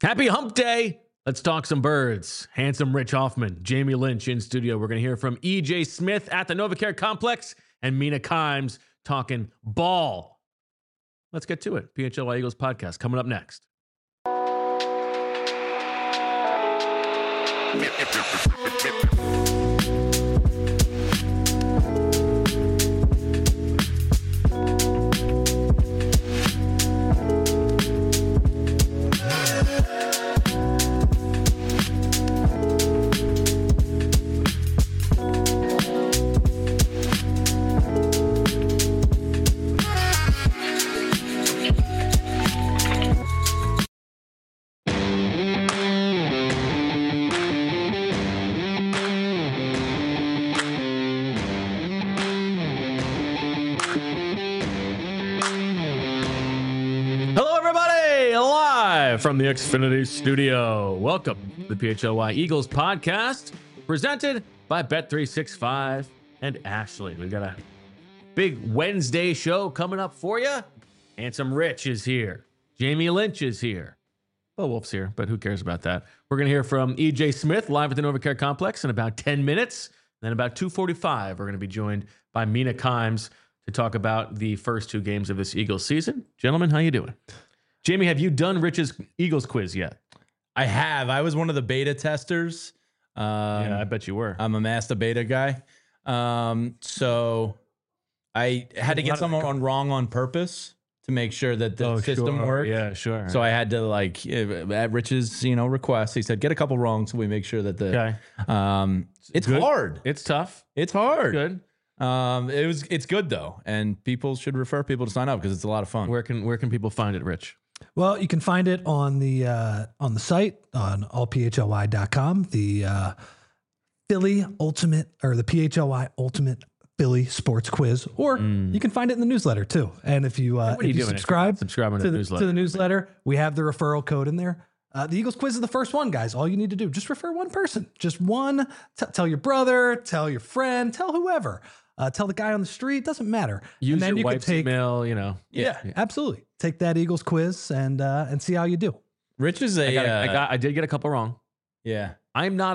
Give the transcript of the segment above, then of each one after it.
Happy hump day. Let's talk some birds. Handsome Rich Hoffman, Jamie Lynch in studio. We're going to hear from EJ Smith at the NovaCare Complex and Mina Kimes talking ball. Let's get to it. PHLY Eagles podcast coming up next. From the Xfinity Studio. Welcome to the PHLY Eagles podcast, presented by Bet365 and Ashley. We've got a big Wednesday show coming up for you. Handsome Rich is here. Jamie Lynch is here. Well, Wolf's here, but who cares about that? We're going to hear from EJ Smith live at the NovaCare Complex in about 10 minutes. Then about 2:45, we're going to be joined by Mina Kimes to talk about the first two games of this Eagles season. Gentlemen, how you doing? Jamie, have you done Rich's Eagles quiz yet? I have. I was one of the beta testers. Yeah, I bet you were. I'm a master beta guy. So I had to get someone wrong on purpose to make sure that the system worked. Yeah, sure. So I had to, like, at Rich's, request, he said, get a couple wrong so we make sure that the it's good. Hard. It's tough. It's hard. Good. It's good though, and people should refer people to sign up because it's a lot of fun. Where can people find it, Rich? Well, you can find it on the site on allphly.com, the Philly Ultimate or the PHLY Ultimate Philly Sports Quiz, or you can find it in the newsletter too. And if you subscribe to the newsletter, we have the referral code in there. The Eagles quiz is the first one, guys. All you need to do, just refer one person, just one. Tell your brother, tell your friend, tell whoever. Tell the guy on the street. Doesn't matter. Use and then your wife's email. Yeah, absolutely. Take that Eagles quiz and see how you do. Rich is I did get a couple wrong. Yeah, I'm not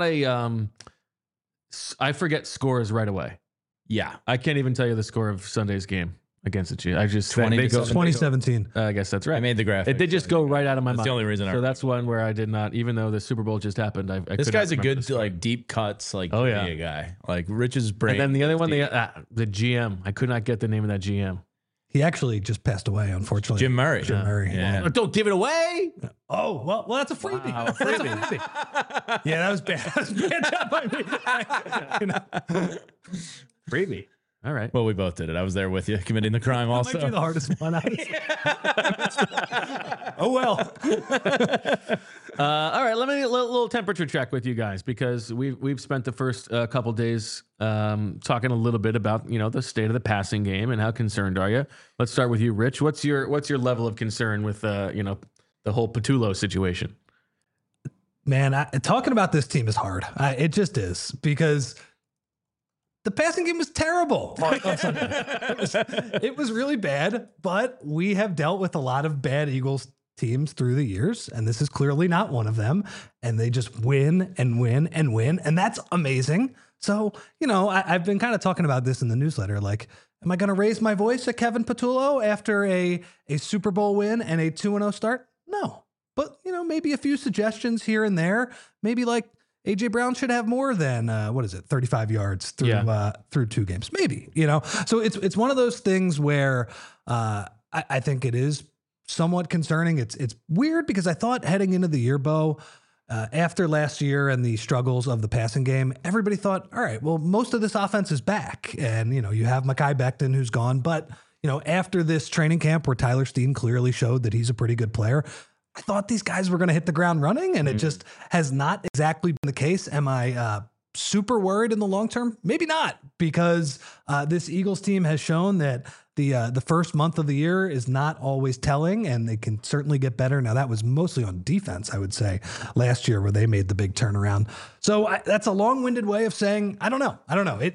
I forget scores right away. Yeah, I can't even tell you the score of Sunday's game against the Chiefs. I just 2017. I guess that's right. I made the graphic. It did just go right out of my mind. That's the only reason. So that's one where I did not, even though the Super Bowl just happened. This guy's a good deep cuts guy. Like Rich's brain. And then the other one, the GM. I could not get the name of that GM. He actually just passed away, unfortunately. Jim Murray. Yeah. Well, don't give it away. Oh, well, that's a freebie. Wow, That's a freebie. Yeah, that was bad. That was bad job by me. Freebie. All right. Well, we both did it. I was there with you, committing the crime also. That might be the hardest one. Oh, well. All right. Let me little temperature check with you guys, because we've spent the first couple days talking a little bit about the state of the passing game and how concerned are you. Let's start with you, Rich. What's your level of concern with the whole Patullo situation? Man, talking about this team is hard. It just is, because the passing game was terrible. It was really bad, but we have dealt with a lot of bad Eagles teams through the years, and this is clearly not one of them. And they just win and win and win, and that's amazing. So, I've been kind of talking about this in the newsletter. Like, am I going to raise my voice at Kevin Patullo after a Super Bowl win and a 2-0 start? No. But, maybe a few suggestions here and there. Maybe like A.J. Brown should have more than 35 yards through two games, maybe. So it's one of those things where I think it is somewhat concerning. It's weird, because I thought heading into the year, Bo, after last year and the struggles of the passing game, everybody thought, all right, well, most of this offense is back, and you have Mekhi Becton, who's gone, but after this training camp where Tyler Steen clearly showed that he's a pretty good player, I thought these guys were going to hit the ground running, and it just has not exactly been the case. Am I super worried in the long term? Maybe not, because this Eagles team has shown that the first month of the year is not always telling, and they can certainly get better. Now, that was mostly on defense, I would say, last year, where they made the big turnaround. So that's a long-winded way of saying, I don't know.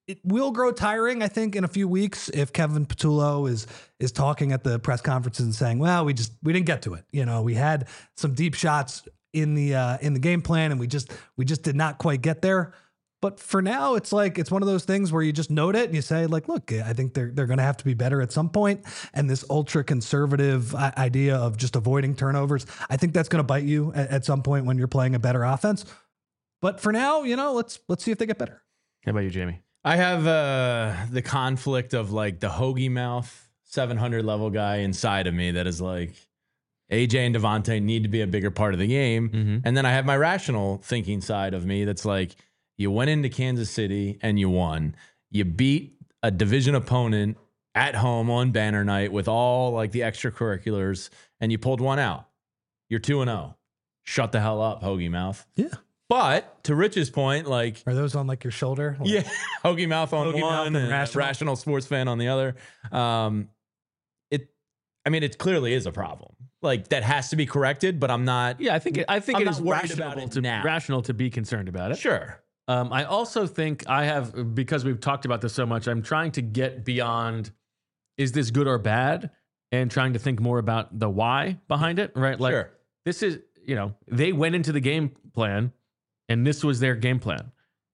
it will grow tiring, I think, in a few weeks if Kevin Patullo is talking at the press conferences and saying, well, we didn't get to it. We had some deep shots in the game plan and we just did not quite get there. But for now, it's one of those things where you just note it and you say, like, look, I think they're going to have to be better at some point. And this ultra conservative idea of just avoiding turnovers, I think that's going to bite you at some point when you're playing a better offense. But for now, let's see if they get better. How about you, Jamie? I have the conflict of like the hoagie mouth 700 level guy inside of me that is like, AJ and Devontae need to be a bigger part of the game. Mm-hmm. And then I have my rational thinking side of me that's like, you went into Kansas City and you won. You beat a division opponent at home on banner night with all like the extracurriculars and you pulled one out. You're 2-0. Shut the hell up, hoagie mouth. Yeah. But to Rich's point, like, are those on like your shoulder? Like, yeah, hoagie mouth on hoagie one mouth and rational sports fan on the other. It clearly is a problem. Like that has to be corrected, but I'm not. Yeah, I think it is rational to be concerned about it. Sure. I also think because we've talked about this so much, I'm trying to get beyond, is this good or bad? And trying to think more about the why behind it, right? Like, sure. This is, they went into the game plan and this was their game plan.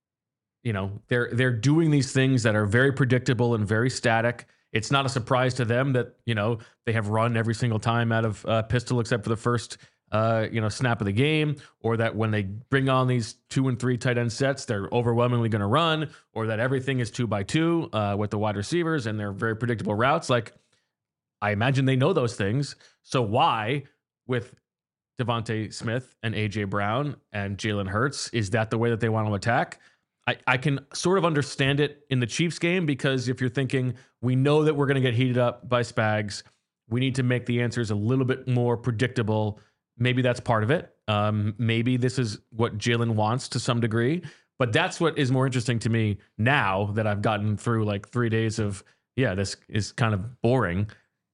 They're doing these things that are very predictable and very static. It's not a surprise to them that, they have run every single time out of pistol except for the first snap of the game, or that when they bring on these 2 and 3 tight end sets, they're overwhelmingly going to run, or that everything is 2x2 with the wide receivers and they're very predictable routes. Like, I imagine they know those things. So why, with Devontae Smith and AJ Brown and Jalen Hurts, is that the way that they want to attack? I can sort of understand it in the Chiefs game, because if you're thinking, we know that we're going to get heated up by Spags, we need to make the answers a little bit more predictable. Maybe that's part of it. Maybe this is what Jalen wants to some degree, but that's what is more interesting to me now that I've gotten through like 3 days of, this is kind of boring,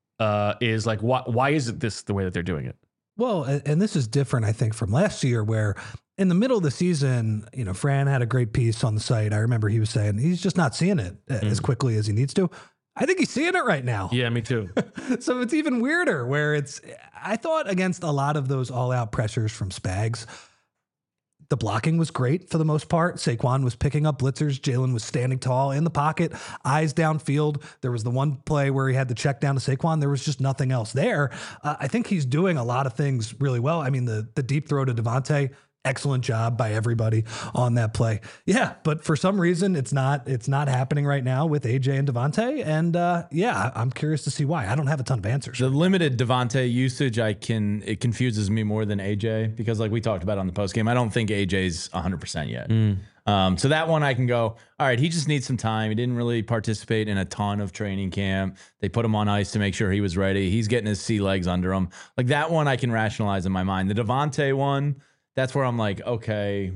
is like, why is it this the way that they're doing it? Well, and this is different, I think, from last year where in the middle of the season, Fran had a great piece on the site. I remember he was saying he's just not seeing it as quickly as he needs to. I think he's seeing it right now. Yeah, me too. So it's even weirder where I thought against a lot of those all-out pressures from Spags, the blocking was great for the most part. Saquon was picking up blitzers. Jalen was standing tall in the pocket, eyes downfield. There was the one play where he had the check down to Saquon. There was just nothing else there. I think he's doing a lot of things really well. I mean, the deep throw to Devontae, excellent job by everybody on that play. Yeah, but for some reason it's not happening right now with AJ and Devontae. And I'm curious to see why. I don't have a ton of answers. The limited Devontae usage, it confuses me more than AJ, because like we talked about on the post game, I don't think AJ's 100% yet. So that one I can go, all right, he just needs some time. He didn't really participate in a ton of training camp. They put him on ice to make sure he was ready. He's getting his sea legs under him. Like that one I can rationalize in my mind. The Devontae one, that's where I'm like, okay,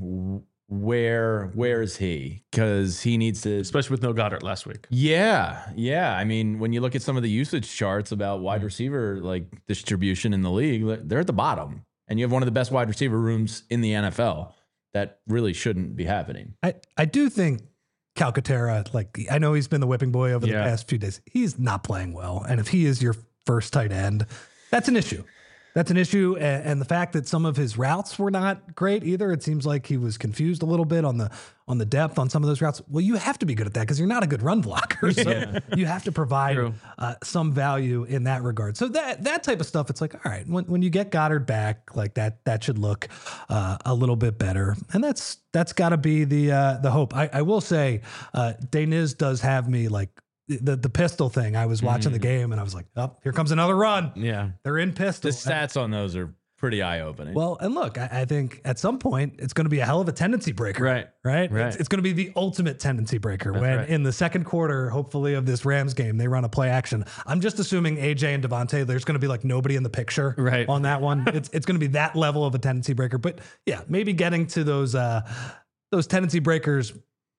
where is he? Because he needs to, especially with no Goddard last week. Yeah. I mean, when you look at some of the usage charts about wide receiver like distribution in the league, they're at the bottom, and you have one of the best wide receiver rooms in the NFL. That really shouldn't be happening. I do think Calcaterra, like, I know he's been the whipping boy over the past few days. He's not playing well, and if he is your first tight end, that's an issue. That's an issue, and the fact that some of his routes were not great either. It seems like he was confused a little bit on the depth on some of those routes. Well, you have to be good at that because you're not a good run blocker. So you have to provide some value in that regard. So that type of stuff, it's like, all right, when you get Goddard back, like that should look a little bit better, and that's got to be the hope. I will say, Deniz does have me like. The pistol thing. I was watching the game and I was like, oh, here comes another run. Yeah. They're in pistol. The stats on those are pretty eye-opening. Well, and look, I think at some point it's going to be a hell of a tendency breaker. Right. It's going to be the ultimate tendency breaker. That's in the second quarter, hopefully, of this Rams game, they run a play action. I'm just assuming AJ and Devontae, there's going to be like nobody in the picture on that one. It's going to be that level of a tendency breaker. But yeah, maybe getting to those tendency breakers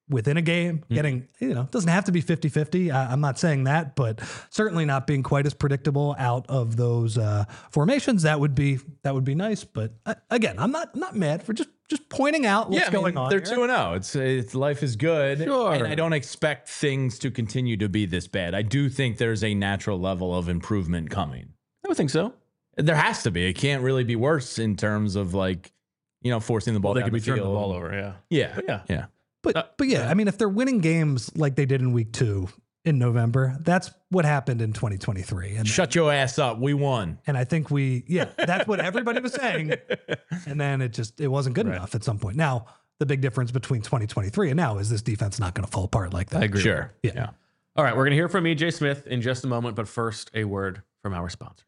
within a game, getting, doesn't have to be 50-50. I'm not saying that, but certainly not being quite as predictable out of those formations. That would be nice. But again, I'm not mad for just pointing out what's going on. They're here. 2-0. It's life is good. Sure. And I don't expect things to continue to be this bad. I do think there's a natural level of improvement coming. I would think so. There has to be. It can't really be worse in terms of forcing the ball They down could be the turning the field. ball over. Yeah. Yeah. But yeah, I mean, if they're winning games like they did in week 2 in November, that's what happened in 2023. And Shut your ass up. We won. And I think that's what everybody was saying. And then it wasn't good enough at some point. Now, the big difference between 2023 and now is this defense not going to fall apart like that. I agree. Sure. Yeah. All right, we're going to hear from EJ Smith in just a moment, but first, a word from our sponsors.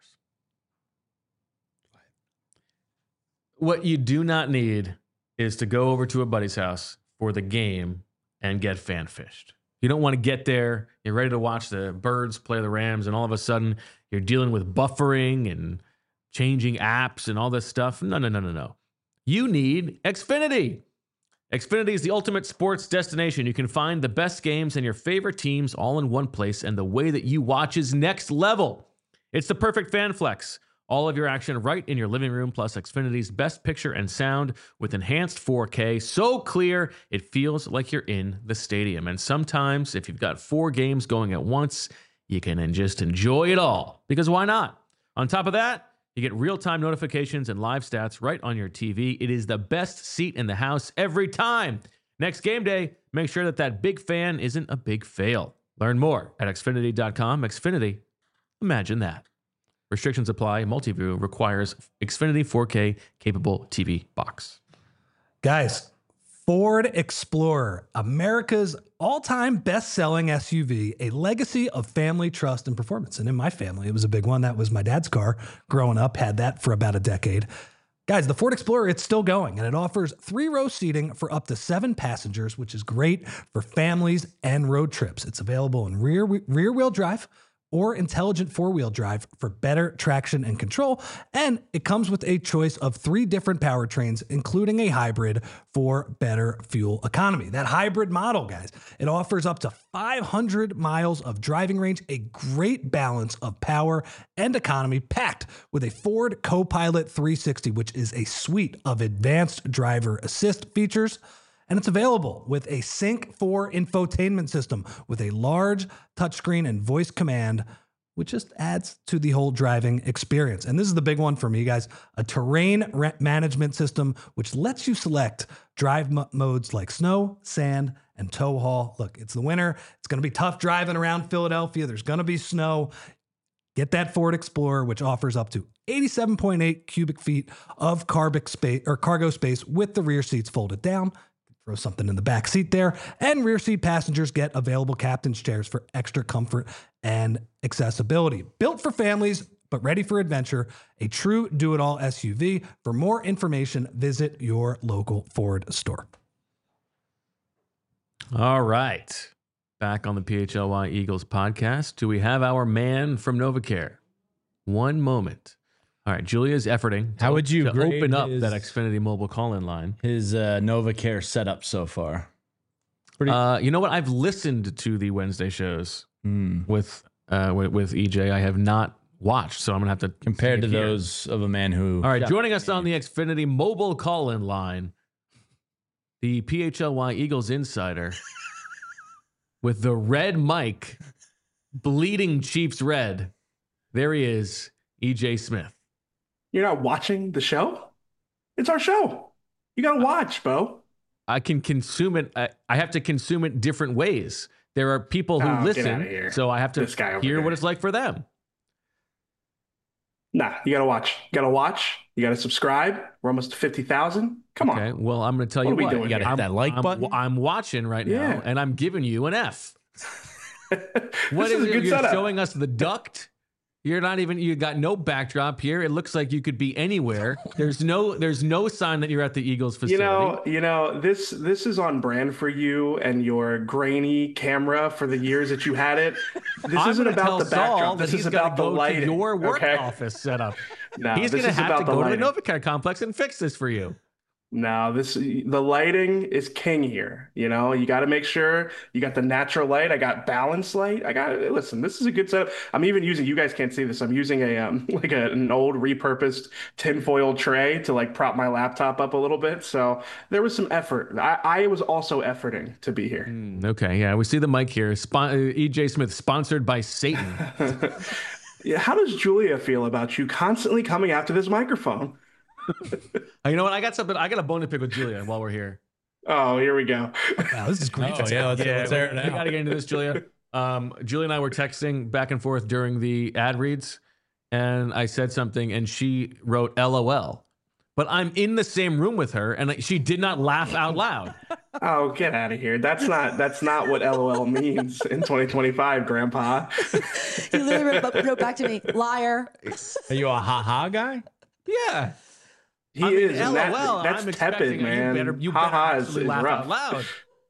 What you do not need is to go over to a buddy's house for the game and get fan fished. You don't want to get there, you're ready to watch the Birds play the Rams, and all of a sudden you're dealing with buffering and changing apps and all this stuff. No. You need Xfinity. Xfinity is the ultimate sports destination. You can find the best games and your favorite teams all in one place, and the way that you watch is next level. It's the perfect fan flex. All of your action right in your living room, plus Xfinity's best picture and sound with enhanced 4K. So clear, it feels like you're in the stadium. And sometimes, if you've got 4 games going at once, you can just enjoy it all. Because why not? On top of that, you get real-time notifications and live stats right on your TV. It is the best seat in the house every time. Next game day, make sure that big fan isn't a big fail. Learn more at Xfinity.com. Xfinity, imagine that. Restrictions apply. Multiview requires Xfinity 4K capable TV box. Guys, Ford Explorer, America's all-time best-selling SUV, a legacy of family trust and performance. And in my family, it was a big one. That was my dad's car growing up, had that for about a decade. Guys, the Ford Explorer, it's still going, and it offers 3-row seating for up to 7 passengers, which is great for families and road trips. It's available in rear-wheel drive or intelligent 4-wheel drive for better traction and control. And it comes with a choice of 3 different powertrains, including a hybrid for better fuel economy. That hybrid model, guys, it offers up to 500 miles of driving range, a great balance of power and economy, packed with a Ford Copilot 360, which is a suite of advanced driver assist features. And it's available with a Sync 4 infotainment system with a large touchscreen and voice command, which just adds to the whole driving experience. And this is the big one for me, guys, a terrain management system, which lets you select drive modes like snow, sand, and tow haul. Look, it's the winter. It's going to be tough driving around Philadelphia. There's going to be snow. Get that Ford Explorer, which offers up to 87.8 cubic feet of cargo space with the rear seats folded down. Throw something in the back seat there. And rear seat passengers get available captain's chairs for extra comfort and accessibility. Built for families, but ready for adventure. A true do-it-all SUV. For more information, visit your local Ford store. All right. Back on the PHLY Eagles podcast. Do we have our man from NovaCare? One moment. All right, Julia's efforting. How would you to grade open up his- that Xfinity mobile call-in line? His NovaCare setup so far. You know what? I've listened to the Wednesday shows with EJ. I have not watched, so I'm gonna have to Compared to see it here. those of a man who... All right, joining us on the Xfinity mobile call-in line, the PHLY Eagles insider with the red mic, bleeding Chiefs red. There he is, EJ Smith. You're not watching the show? It's our show. You got to watch, Bo. I can consume it. I have to consume it different ways. There are people who Oh, get listen, outta here. so I have to This guy over hear here. what it's like for them. Nah, you got to watch. You got to watch. You got to subscribe. We're almost to 50,000. Come Okay, on. well, I'm going to tell What you are we what. doing You here? gotta hit that like button. I'm watching right now, Yeah. and I'm giving you an F. This What is a it? good You're setup. showing us the duct. You're not even. You got no backdrop here. It looks like you could be anywhere. There's no sign that you're at the Eagles facility. You know, this is on brand for you and your grainy camera for the years that you had it. This I'm isn't gonna about tell the Saul backdrop. that This he's is got to about the go to lighting. your work okay? office setup. No, He's this going to is have about to the go to the lighting. NovaCare complex and fix this for you. No, the lighting is king here. You know, you got to make sure you got the natural light. I got balanced light. I got listen. This is a good setup. I'm even using. You guys can't see this. I'm using a like an old repurposed tinfoil tray to like prop my laptop up a little bit. So there was some effort. I was also efforting to be here. Okay, yeah, we see the mic here. EJ Smith, sponsored by Satan. Yeah, how does Julia feel about you constantly coming after this microphone? You know what? I got something. I got a bone to pick with Julia while we're here. Oh, here we go. Wow, this is great. Oh, yeah, let's air it We out. got to get into this, Julia. Julia and I were texting back and forth during the ad reads, and I said something, and she wrote LOL. But I'm in the same room with her, and she did not laugh out loud. Oh, get out of here. That's not what LOL means in 2025, Grandpa. He literally wrote back to me, liar. Are you a ha-ha guy? Yeah. He I mean, is. And that- LOL. that's I'm tepid, expecting man. you better Haha actually is laugh rough. out loud.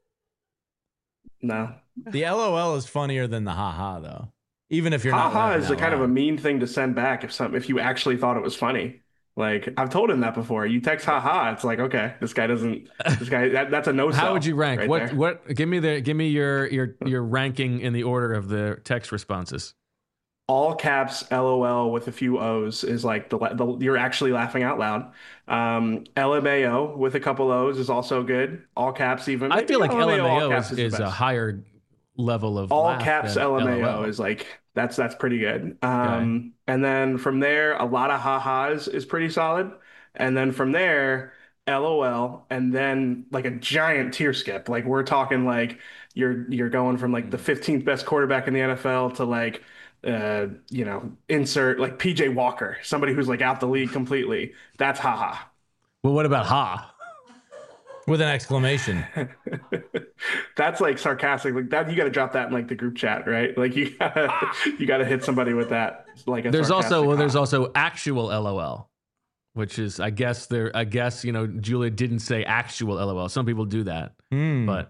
No. The LOL is funnier than the ha-ha, though. Even if you're not Haha laughing is a out kind of a loud. mean thing to send back if you actually thought it was funny. Like I've told him that before. You text haha, it's like, okay, this guy that's a no sell. How would you rank? right there. What give me your ranking in the order of the text responses. All caps LOL with a few O's is like the you're actually laughing out loud. LMAO with a couple O's is also good. All caps even. I feel like all LMAO caps is the a best. higher level of All laugh caps than LMAO LOL. is like that's pretty good. Okay. And then from there, a lot of ha-has is pretty solid. And then from there, LOL, and then like a giant tier skip. Like we're talking like you're going from like the 15th best quarterback in the NFL to like insert like PJ Walker, somebody who's like out the league completely. That's haha. Well, what about ha? With an exclamation. That's like sarcastic. Like that, you got to drop that in like the group chat, right? Like you gotta hit somebody with that. Like a There's sarcastic there's ha. also actual LOL, which is I guess Julia didn't say actual LOL. Some people do that, but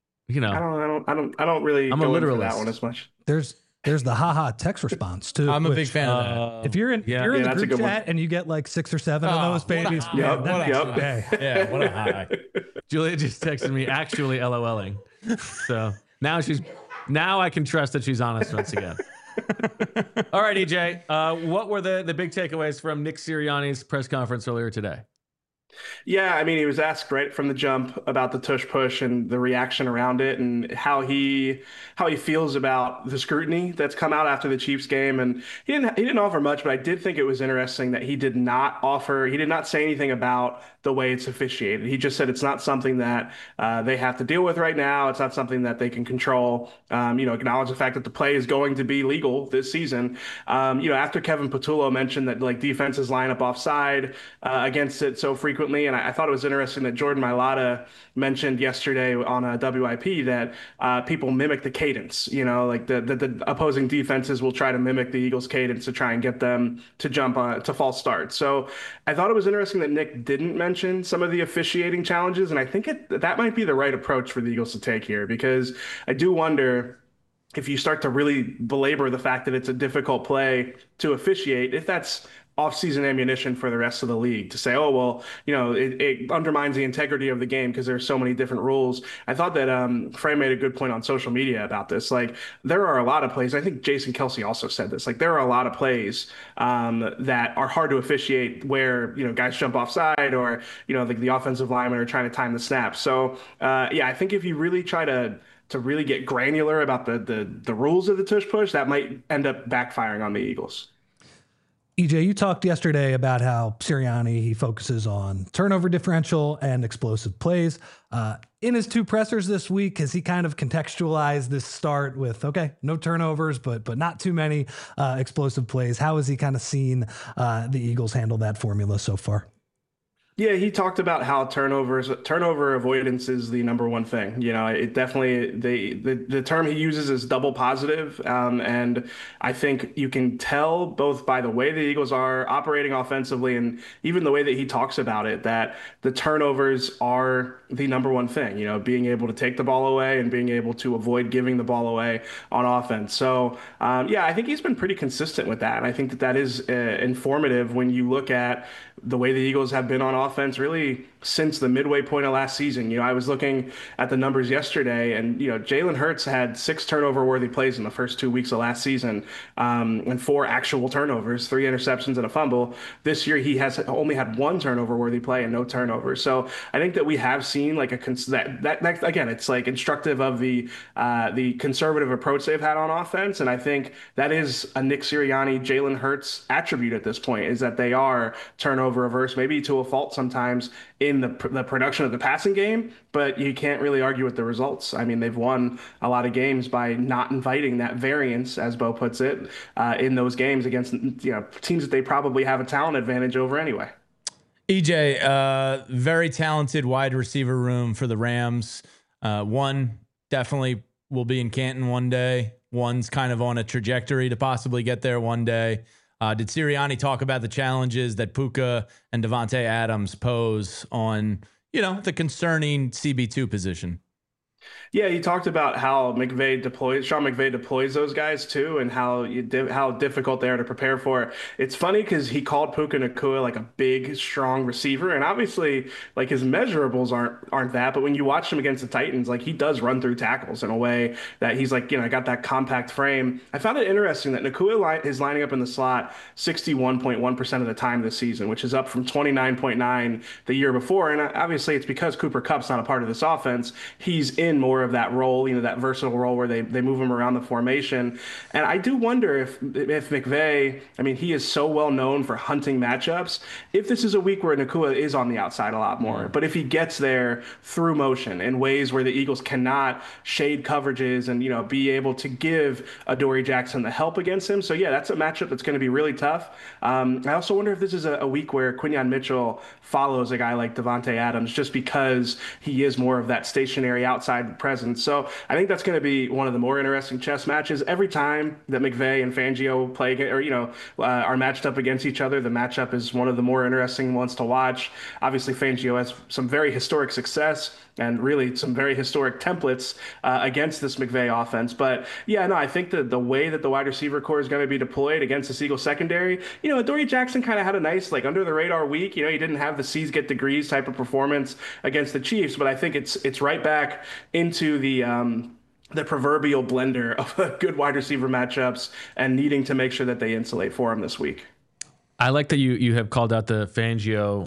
I don't really I'm a go in for literalist. that one as much. There's the haha text response too. I'm a which, big fan of that. If you're in, yeah. you're in Yeah, the that's a group good one. chat and you get like 6 or 7 of Oh, those what a- babies, Yep, man, that yep. makes my day. Yeah, what a high. Julia just texted me actually LOLing. So now I can trust that she's honest once again. All right, EJ, what were the big takeaways from Nick Sirianni's press conference earlier today? Yeah, I mean, he was asked right from the jump about the tush push and the reaction around it, and how he feels about the scrutiny that's come out after the Chiefs game. And he didn't offer much, but I did think it was interesting that he did not say anything about the way it's officiated. He just said it's not something that they have to deal with right now. It's not something that they can control. Acknowledge the fact that the play is going to be legal this season. After Kevin Patullo mentioned that like defenses line up offside against it so frequently. And I thought it was interesting that Jordan Mailata mentioned yesterday on a WIP that people mimic the cadence. Like the opposing defenses will try to mimic the Eagles' cadence to try and get them to jump to false starts. So I thought it was interesting that Nick didn't mention some of the officiating challenges. And I think that might be the right approach for the Eagles to take here, because I do wonder if you start to really belabor the fact that it's a difficult play to officiate, if that's off-season ammunition for the rest of the league to say, oh, well, it undermines the integrity of the game because there's so many different rules. I thought that Frey made a good point on social media about this. Like, there are a lot of plays. I think Jason Kelsey also said this. Like, there are a lot of plays that are hard to officiate where, guys jump offside or, like the offensive linemen are trying to time the snap. So, I think if you really try to really get granular about the rules of the tush push, that might end up backfiring on the Eagles. EJ, you talked yesterday about how Sirianni, he focuses on turnover differential and explosive plays. In his 2 pressers this week, has he kind of contextualized this start with, okay, no turnovers, but not too many explosive plays? How has he kind of seen the Eagles handle that formula so far? Yeah, he talked about how turnover avoidance is the number one thing. It definitely the term he uses is double positive, and I think you can tell both by the way the Eagles are operating offensively and even the way that he talks about it that the turnovers are the number one thing. Being able to take the ball away and being able to avoid giving the ball away on offense. So I think he's been pretty consistent with that, and I think that is informative when you look at the way the Eagles have been on offense really since the midway point of last season. I was looking at the numbers yesterday, and Jalen Hurts had 6 turnover-worthy plays in the first 2 weeks of last season, and 4 actual turnovers, 3 interceptions and a fumble. This year, he has only had 1 turnover-worthy play and no turnovers. So I think that we have seen like that again, it's like instructive of the conservative approach they've had on offense, and I think that is a Nick Sirianni, Jalen Hurts attribute at this point, is that they are turnover averse, maybe to a fault sometimes in the production of the passing game, but you can't really argue with the results. I mean, they've won a lot of games by not inviting that variance, as Bo puts it, in those games against teams that they probably have a talent advantage over anyway. EJ, very talented wide receiver room for the Rams. One definitely will be in Canton one day. One's kind of on a trajectory to possibly get there one day. Did Sirianni talk about the challenges that Puka and Davante Adams pose on, the concerning CB2 position? Yeah, he talked about how Sean McVay deploys those guys too, and how difficult they are to prepare for. It's funny because he called Puka Nacua like a big, strong receiver, and obviously, like his measurables aren't that. But when you watch him against the Titans, like he does run through tackles in a way that he's like, got that compact frame. I found it interesting that Nacua is lining up in the slot 61.1% of the time this season, which is up from 29.9 the year before. And obviously, it's because Cooper Kupp's not a part of this offense. He's in more of that role, that versatile role where they move him around the formation. And I do wonder if McVay, I mean, he is so well known for hunting matchups, if this is a week where Nacua is on the outside a lot more. But if he gets there through motion in ways where the Eagles cannot shade coverages and, be able to give Adoree Jackson the help against him. So yeah, that's a matchup that's going to be really tough. I also wonder if this is a week where Quinyon Mitchell follows a guy like Davante Adams just because he is more of that stationary outside presence. So I think that's going to be one of the more interesting chess matches. Every time that McVay and Fangio play, are matched up against each other, the matchup is one of the more interesting ones to watch. Obviously, Fangio has some very historic success and really some very historic templates against this McVay offense. But yeah, no, I think that the way that the wide receiver core is going to be deployed against the Eagles secondary, Adoree Jackson kind of had a nice, like, under the radar week. He didn't have the C's get degrees type of performance against the Chiefs, but I think it's right back into the proverbial blender of good wide receiver matchups and needing to make sure that they insulate for him this week. I like that you have called out the Fangio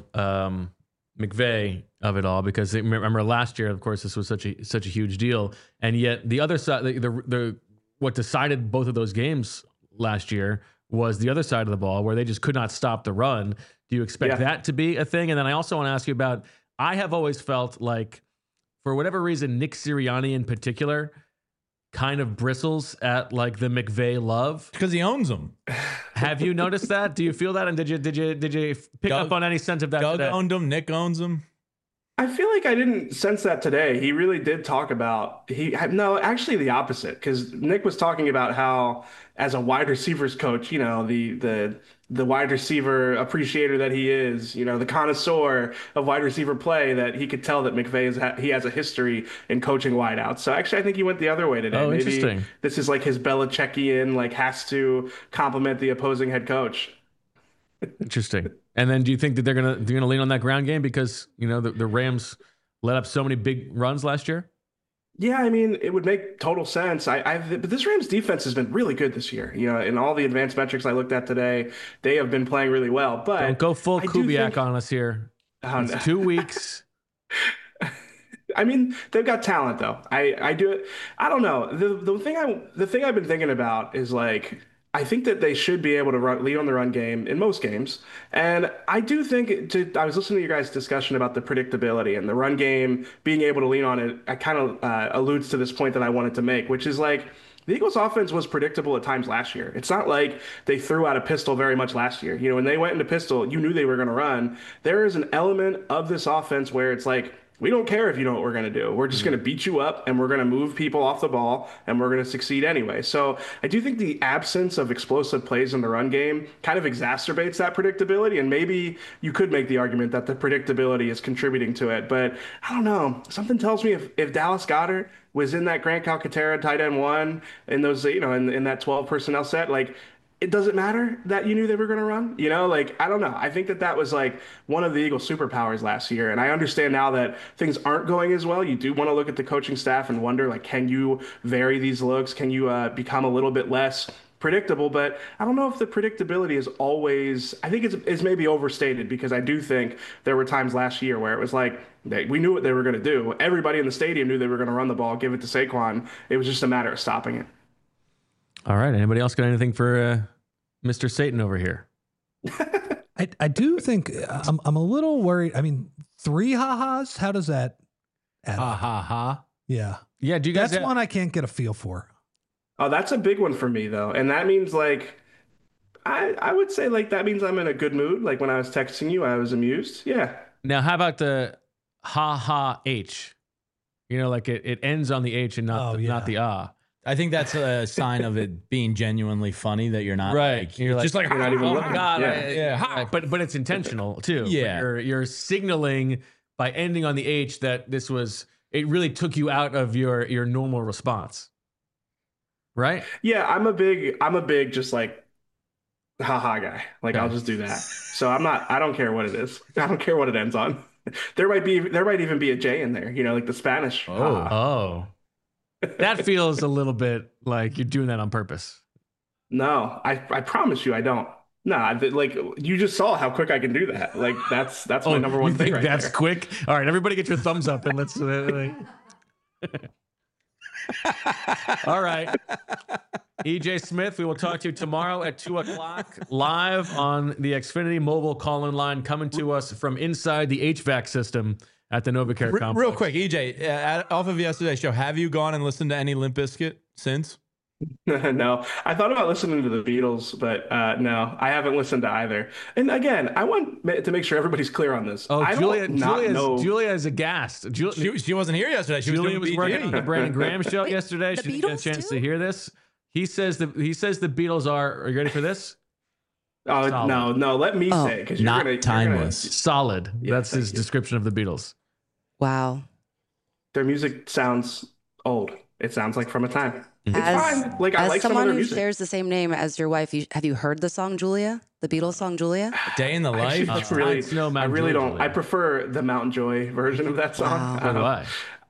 McVay of it all, because remember last year, of course, this was such a huge deal, and yet the other side, the what decided both of those games last year was the other side of the ball, where they just could not stop the run. Do you expect that to be a thing? And then I also want to ask you about, I have always felt like, for whatever reason, Nick Sirianni in particular kind of bristles at like the McVay love because he owns them. Have you noticed that? Do you feel that? And did you pick up on any sense of that? Doug today? Owned them. Nick owns them. I feel like I didn't sense that today. He really did talk about actually the opposite, because Nick was talking about how, as a wide receivers coach, the wide receiver appreciator that he is, the connoisseur of wide receiver play, that he could tell that McVay he has a history in coaching wideouts. So actually, I think he went the other way today. Oh, Maybe interesting. This is like his Belichickian, like, has to compliment the opposing head coach. Interesting. And then do you think that they're gonna lean on that ground game because the Rams let up so many big runs last year? Yeah, I mean, it would make total sense. But this Rams defense has been really good this year. In all the advanced metrics I looked at today, they have been playing really well. But don't go full Kubiak on us here. It's 2 weeks. I mean, they've got talent though. I do it. I don't know. The thing I've been thinking about is, like, I think that they should be able to lead on the run game in most games. And I do think, I was listening to your guys' discussion about the predictability and the run game being able to lean on it. I kind of alludes to this point that I wanted to make, which is, like, the Eagles' offense was predictable at times last year. It's not like they threw out a pistol very much last year. When they went into pistol, you knew they were going to run. There is an element of this offense where it's like, we don't care if you know what we're going to do. We're just going to beat you up, and we're going to move people off the ball, and we're going to succeed anyway. So I do think the absence of explosive plays in the run game kind of exacerbates that predictability, and maybe you could make the argument that the predictability is contributing to it. But I don't know. Something tells me if Dallas Goedert was in that Grant Calcaterra tight end one in those, in that 12 personnel set, like, it doesn't matter that you knew they were going to run. You know, like, I don't know. I think that that was like one of the Eagles' superpowers last year. And I understand now that things aren't going as well. You do want to look at the coaching staff and wonder, like, can you vary these looks? Can you become a little bit less predictable? But I don't know if the predictability is always, I think it's maybe overstated, because I do think there were times last year where it was like, we knew what they were going to do. Everybody in the stadium knew they were going to run the ball, give it to Saquon. It was just a matter of stopping it. All right. Anybody else got anything for Mr. Satan over here? I do think I'm a little worried. I mean, 3 ha-has, how does that add Ha up? ha ha. Yeah. Yeah. Do you guys That's one I can't get a feel for. Oh, that's a big one for me though. And that means like I would say like that means I'm in a good mood. Like when I was texting you, I was amused. Yeah. Now, how about the ha ha H? You know, like it ends on the H and not not the ah. I think that's a sign of it being genuinely funny that you're not Right. Like, You're just like you're not even oh my looking. God. Yeah. Ha. But it's intentional too. Yeah. You're signaling by ending on the H that it really took you out of your normal response. Right? Yeah, I'm a big just like haha guy. Like I'll just do that. So I don't care what it is. I don't care what it ends on. There might even be a J in there, you know, like the Spanish. haha. Oh. That feels a little bit like you're doing that on purpose. No, I promise you I don't. Nah, like you just saw how quick I can do that. Like that's my number one you thing think right that's there. quick? All right, everybody get your thumbs up and let's all right. EJ Smith, we will talk to you tomorrow at 2:00 live on the Xfinity mobile call-in line, coming to us from inside the HVAC system at the NovaCare complex. real quick, EJ, off of yesterday's show, have you gone and listened to any Limp Bizkit since? No, I thought about listening to the Beatles, but no, I haven't listened to either. And again, I want to make sure everybody's clear on this. Oh, I don't know. Julia is aghast. She wasn't here yesterday. She Julia was was doing working on the BG. Brandon Graham show yesterday. the She didn't get a Beatles chance too? to hear this. He says the Beatles are you ready for this? Oh Solid. no, let me say, because Not you're timeless. Solid. Yeah, That's his thank you. description of the Beatles. Wow. their music sounds old. It sounds like from a time. It's As- fine. Like I As like some of someone their who music. shares the same name as your wife, have you heard the song Julia? The Beatles song Julia? Day in the life. Actually, really, It's no I Mountain really Joy, don't. Julia. I prefer the Mountain Joy version of that song. Wow. So do I.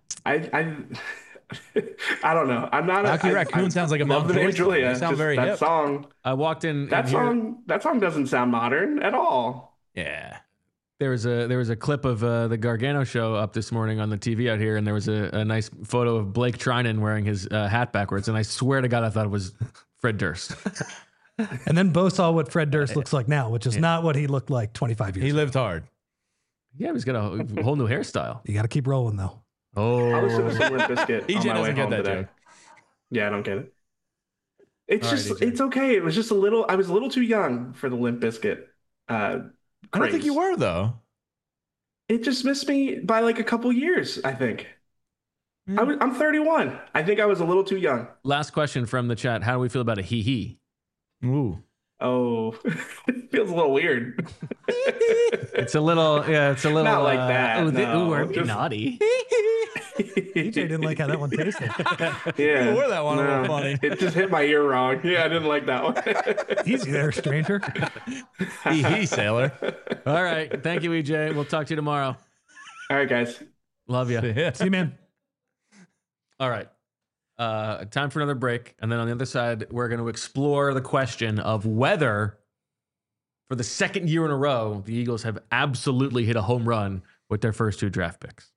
I don't know. I'm not. Rocky Raccoon sounds like a love the Mountain name Joy Julia. song. They sound Just very that hip. song. I walked in. That and here- song. That song doesn't sound modern at all. Yeah. There was a clip of the Gargano show up this morning on the TV out here, and there was a nice photo of Blake Trinan wearing his hat backwards, and I swear to God, I thought it was Fred Durst. And then Bo saw what Fred Durst looks like now, which is not what he looked like 25 years He ago. lived hard. Yeah, he's got a whole new hairstyle. You got to keep rolling, though. I listened Oh, to some Limp Bizkit EJ on my way doesn't get home that today. joke. Yeah, I don't get it. It's All right, just, EJ. it's okay. It was just a little. I was a little too young for the Limp Bizkit. I don't think you were though. It just missed me by like a couple years, I think. I'm 31. I think I was a little too young. last question from the chat. How do we feel about a hee? Ooh. Oh, it feels a little weird. It's a little, it's a little Not like that, no. aren't we Just- naughty? EJ didn't like how that one tasted. Yeah. You wore that one a little No, funny. It just hit my ear wrong. Yeah, I didn't like that one. Easy there, stranger. Hee sailor. All right. Thank you, EJ. We'll talk to you tomorrow. All right, guys. Love you. Yeah. See you, man. All right. Time for another break. And then on the other side, we're going to explore the question of whether, for the second year in a row, the Eagles have absolutely hit a home run with their first 2 draft picks.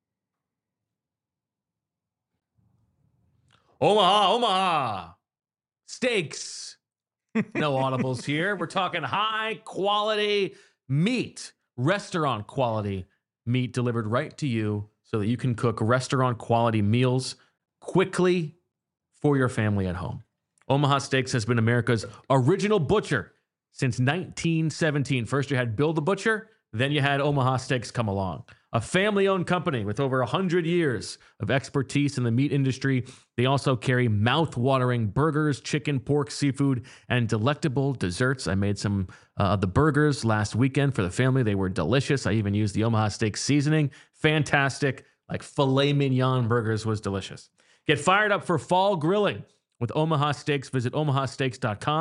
Omaha steaks. No audibles here. We're talking high quality meat, restaurant quality meat delivered right to you so that you can cook restaurant quality meals quickly for your family at home. Omaha Steaks has been America's original butcher since 1917. First you had Bill the Butcher, then you had Omaha Steaks come along. A family-owned company with over 100 years of expertise in the meat industry. They also carry mouth-watering burgers, chicken, pork, seafood, and delectable desserts. I made some of the burgers last weekend for the family. They were delicious. I even used the Omaha Steaks seasoning. Fantastic. Like filet mignon burgers was delicious. Get fired up for fall grilling with Omaha Steaks. Visit omahasteaks.com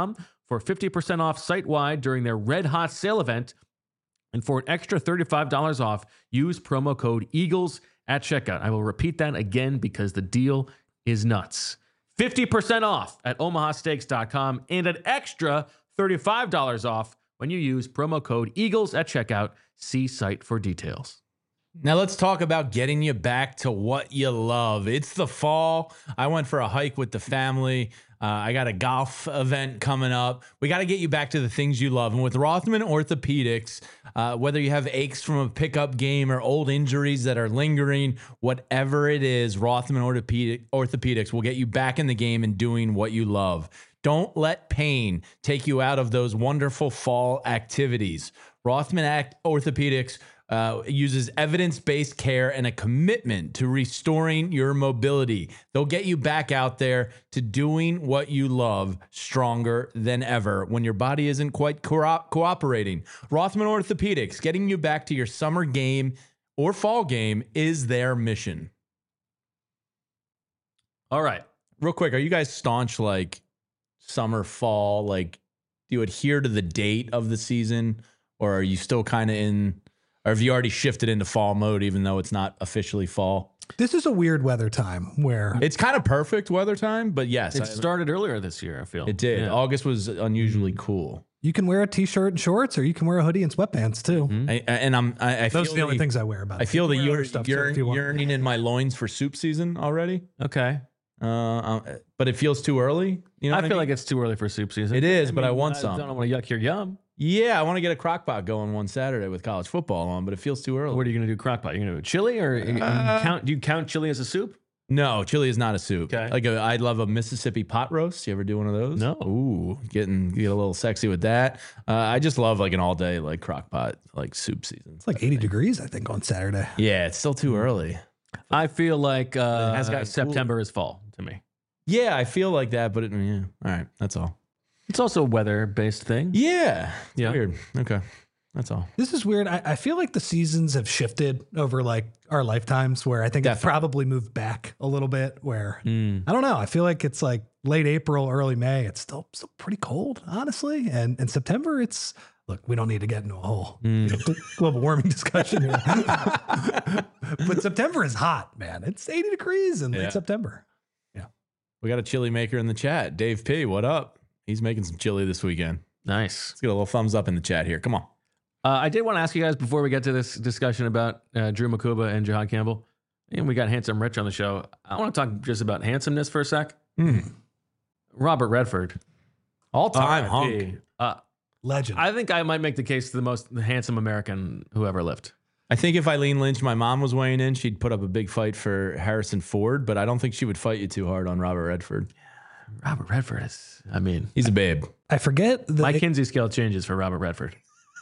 for 50% off site-wide during their Red Hot sale event. And for an extra $35 off, use promo code EAGLES at checkout. I will repeat that again because the deal is nuts. 50% off at omahasteaks.com and an extra $35 off when you use promo code EAGLES at checkout. See site for details. Now let's talk about getting you back to what you love. It's the fall. I went for a hike with the family. I got a golf event coming up. We got to get you back to the things you love. And with Rothman Orthopedics, whether you have aches from a pickup game or old injuries that are lingering, whatever it is, Rothman Orthopedics will get you back in the game and doing what you love. Don't let pain take you out of those wonderful fall activities. Rothman Orthopedics uses evidence-based care and a commitment to restoring your mobility. They'll get you back out there to doing what you love stronger than ever when your body isn't quite cooperating. Rothman Orthopedics, getting you back to your summer game or fall game is their mission. All right. Real quick, are you guys staunch like summer, fall? Like, do you adhere to the date of the season, or are you still kind of in... Or have you already shifted into fall mode, even though it's not officially fall? This is a weird weather time where It's kind of perfect weather time, but yes. It started earlier this year, I feel. It did. Yeah. August was unusually cool. you can wear a t-shirt and shorts, or you can wear a hoodie and sweatpants too. I Those feel are the only things I wear. About I feel the You can wear other stuff, too, if you want. yearning in my loins for soup season already. Okay. But it feels too early. You know, I feel like it's too early for soup season. It is, but I want some. I don't want to yuck your yum. Yeah, I want to get a crock pot going one Saturday with college football on, but it feels too early. What are you going to do, crock pot? You're going to do chili, or do you count chili as a soup? No, chili is not a soup. Okay. Like I love a Mississippi pot roast. You ever do one of those? No. Ooh, get a little sexy with that. I just love like an all day like crock pot like soup season. It's like 80 degrees, I think, on Saturday. Yeah, it's still too early. I feel like has gotten September is fall to me. Yeah, I feel like that, but yeah. All right, that's all. It's also a weather-based thing. Yeah, it's Yeah. weird. Okay, that's all. This is weird. I feel like the seasons have shifted over like our lifetimes, where I think it's Definitely. probably moved back a little bit, where Mm. I don't know. I feel like it's like late April, early May. It's still pretty cold, honestly. And in September, it's, look, we don't need to get into a whole global warming discussion here. But September is hot, man. It's 80 degrees in Yeah. late September. We got a chili maker in the chat. Dave P, what up? He's making some chili this weekend. Nice. Let's get a little thumbs up in the chat here. Come on. I did want to ask you guys before we get to this discussion about Drew Makuba and Jahad Campbell, and we got Handsome Rich on the show. I want to talk just about handsomeness for a sec. Robert Redford, All-time R.I.P. hunk. Legend. I think I might make the case to the most handsome American who ever lived. I think if Eileen Lynch, my mom, was weighing in, she'd put up a big fight for Harrison Ford, but I don't think she would fight you too hard on Robert Redford. Robert Redford is, I mean, He's a babe. I forget the my Kinsey scale changes for Robert Redford.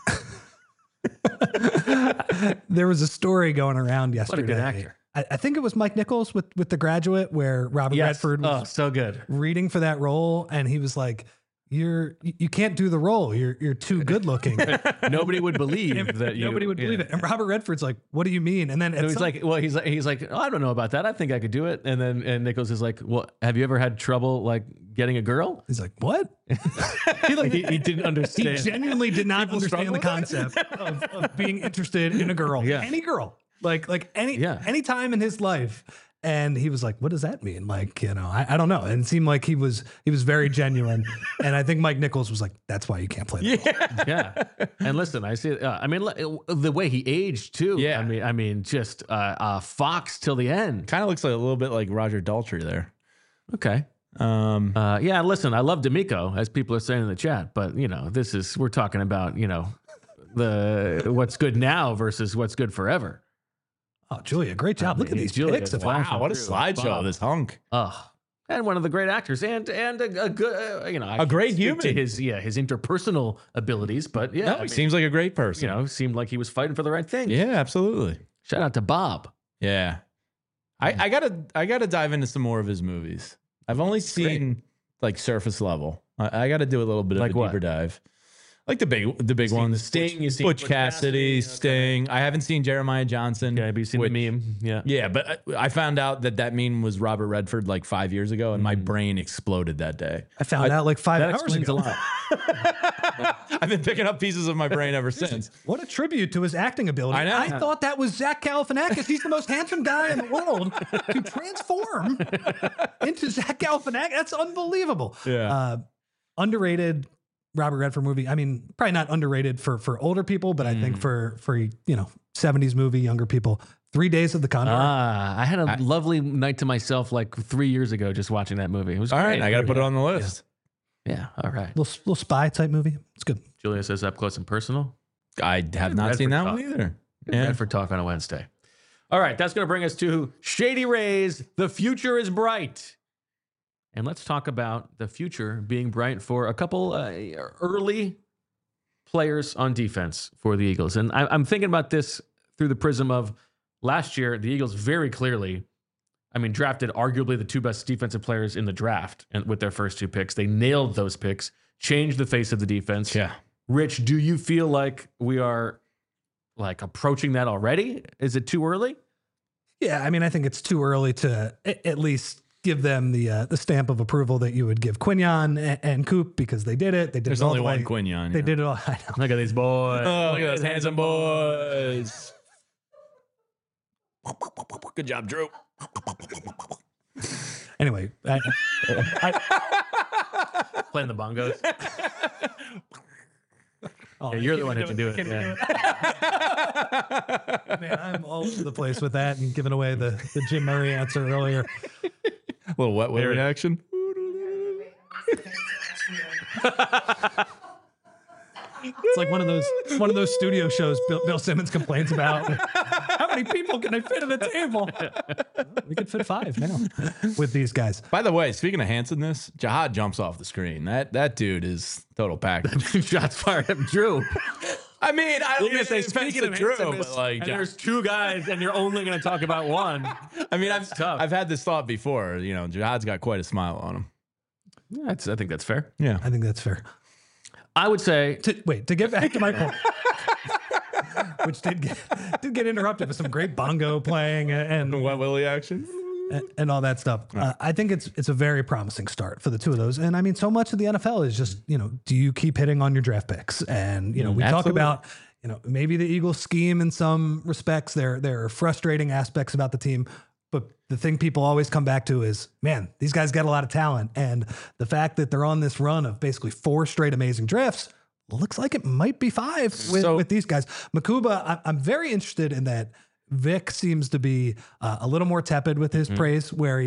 there was a story going around What a yesterday. good actor. I think it was Mike Nichols with The Graduate, where Robert Redford was so good. reading for that role, and he was like, you can't do the role. You're too good looking. Nobody would believe that you. Nobody would believe it. And Robert Redford's like, what do you mean? And then And he's like, well, he's like, oh, I don't know about that. I think I could do it. And then Nichols is like, well, have you ever had trouble like getting a girl? he's like, what? he didn't He understand. genuinely did not understand the struggle with concept of being interested in a girl. Yeah. Any girl. Like any time in his life. And he was like, what does that mean? Like, I don't know. And it seemed like he was very genuine. And I think Mike Nichols was like, that's why you can't play that role. Yeah. And listen, I see. I mean, the way he aged too. Yeah. I mean, just Fox till the end. Kind of looks like a little bit like Roger Daltrey there. Okay. Yeah. Listen, I love D'Amico, as people are saying in the chat, but we're talking about the what's good now versus what's good forever. Oh, Julia, great job. Look at these Julia, pics of wow. him. What a True. slideshow, Bob. this hunk. And one of the great actors, and a good, I A great can't speak to human. his interpersonal abilities, but yeah, No, I he mean, seems like a great person. seemed like he was fighting for the right thing. Yeah, absolutely. Shout out to Bob. Yeah. I gotta dive into some more of his movies. I've only seen like surface level. I gotta do a little bit of Like a what? deeper dive. Like the big ones. Sting, you seen Butch Cassidy, okay. Sting. I haven't seen Jeremiah Johnson. Okay, have you seen the meme? Yeah. Yeah, but I found out that meme was Robert Redford like 5 years ago, and my brain exploded that day. I found out like 5 That hours explains ago. a lot. I've been picking up pieces of my brain ever since. What a tribute to his acting ability. I know. I thought that was Zach Galifianakis. He's the most handsome guy in the world to transform into Zach Galifianakis. That's unbelievable. Yeah. Underrated Robert Redford movie. I mean, probably not underrated for older people, but I think for 70s movie, younger people. 3 Days of the Condor. I had a lovely night to myself like 3 years ago just watching that movie. It was All great. right, I got to put it on the list. Yeah, all right. Little spy type movie. It's good. Julia says up close and personal. I have not seen that one either. Yeah. Redford Talk on a Wednesday. All right, that's going to bring us to Shady Rays. The future is bright. And let's talk about the future being bright for a couple early players on defense for the Eagles. And I'm thinking about this through the prism of last year, the Eagles very clearly, drafted arguably the two best defensive players in the draft and with their first two picks. They nailed those picks, changed the face of the defense. Yeah. Rich, do you feel like we are like approaching that already? Is it too early? Yeah, I think it's too early to at least give them the stamp of approval that you would give Quinion and Coop because they did it. They did There's it all only the one way. Quinion. They did it all. I know. Look at these boys. Oh, look at those handsome boys. Good job, Drew. Anyway, Playing the bongos. Yeah, you're the one who can do it. Yeah. Man, I'm all over the place with that and giving away the Jim Murray answer earlier. Little wet willy action. It's like one of those studio shows Bill Simmons complains about. How many people can I fit at a table? We could fit 5 now with these guys. By the way, speaking of handsomeness, Jihad jumps off the screen. That dude is total package. Shots fired at Drew. I mean, I don't You're gonna say, say speaking of Drew, handsomeness, but like, and there's two guys, and you're only going to talk about one. I mean, tough. I've had this thought before. Jihad's got quite a smile on him. Yeah, I think that's fair. Yeah. I think that's fair. I would say To get back to my point, which did get interrupted with some great bongo playing and Wet willy action. all that stuff. I think it's a very promising start for the two of those. And so much of the NFL is just, do you keep hitting on your draft picks? And, we talk Absolutely. about, maybe the Eagles scheme in some respects. There are frustrating aspects about the team. But the thing people always come back to is, man, these guys got a lot of talent. And the fact that they're on this run of basically 4 straight amazing drafts looks like it might be 5 with these guys. Makuba, I'm very interested in that. Vic seems to be a little more tepid with his praise, where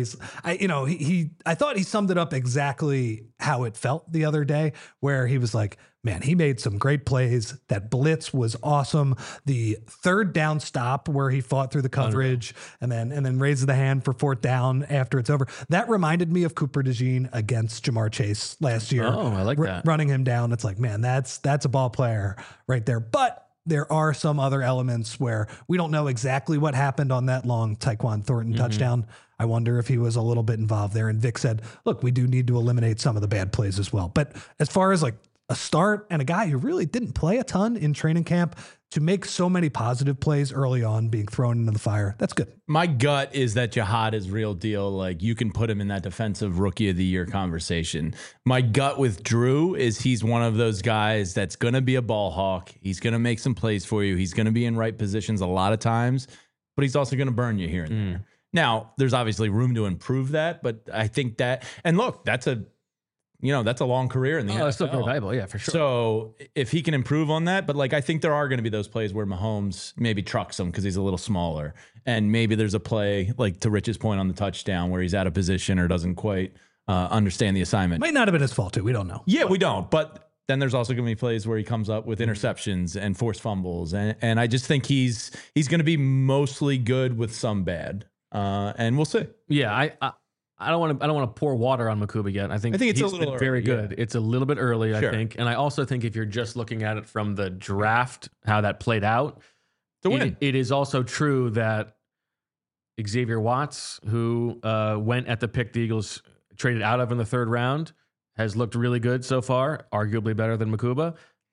I thought he summed it up exactly how it felt the other day, where he was like, man, he made some great plays. That blitz was awesome. The 3rd down stop where he fought through the coverage and then raises the hand for 4th down after it's over. That reminded me of Cooper DeJean against Jamar Chase last year. Oh, I like that. Running him down. It's like, man, that's a ball player right there. But there are some other elements where we don't know exactly what happened on that long Tyquan Thornton touchdown. I wonder if he was a little bit involved there. And Vic said, look, we do need to eliminate some of the bad plays as well. But as far as like a start and a guy who really didn't play a ton in training camp to make so many positive plays early on being thrown into the fire, that's good. My gut is that Jihad is real deal. Like, you can put him in that defensive rookie of the year conversation. My gut with Drew is he's one of those guys that's going to be a ball hawk. He's going to make some plays for you. He's going to be in right positions a lot of times, but he's also going to burn you here and there. Now, there's obviously room to improve that, but I think that, and look, that's a long career in the NFL. It's still very valuable. Yeah, for sure. So if he can improve on that, but like, I think there are going to be those plays where Mahomes maybe trucks him because he's a little smaller. And maybe there's a play, like to Rich's point on the touchdown, where he's out of position or doesn't quite understand the assignment. Might not have been his fault too. We don't know. Yeah, we don't. But then there's also going to be plays where he comes up with interceptions and forced fumbles. And I just think he's going to be mostly good with some bad. And we'll see. Yeah, I don't want to pour water on Makuba yet. I think it's a he's little been very early, good. yeah. It's a little bit early, Sure. I think. And I also think if you're just looking at it from the draft, how that played out, To win. it is also true that Xavier Watts, who went at the pick the Eagles traded out of in the 3rd round, has looked really good so far, arguably better than Makuba.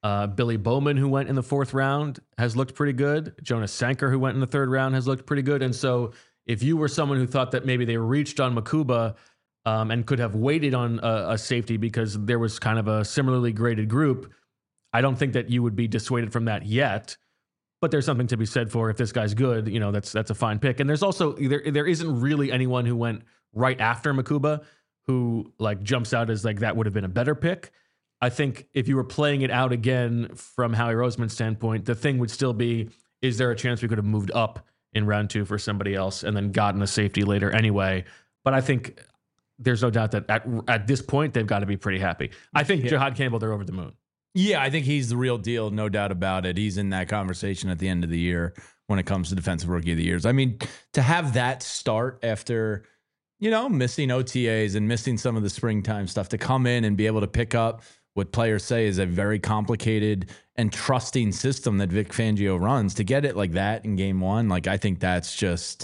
Billy Bowman, who went in the 4th round, has looked pretty good. Jonas Sanker, who went in the 3rd round, has looked pretty good. And so if you were someone who thought that maybe they reached on Makuba and could have waited on a safety because there was kind of a similarly graded group, I don't think that you would be dissuaded from that yet. But there's something to be said for if this guy's good, that's a fine pick. And there's also there isn't really anyone who went right after Makuba who like jumps out as like that would have been a better pick. I think if you were playing it out again from Howie Roseman's standpoint, the thing would still be, is there a chance we could have moved up in round 2 for somebody else and then gotten a safety later anyway? But I think there's no doubt that at this point, they've got to be pretty happy. I think Jihad Campbell, they're over the moon. Yeah, I think he's the real deal, no doubt about it. He's in that conversation at the end of the year when it comes to Defensive Rookie of the Years. I mean, to have that start after, missing OTAs and missing some of the springtime stuff, to come in and be able to pick up what players say is a very complicated and trusting system that Vic Fangio runs, to get it like that in game 1, like I think that's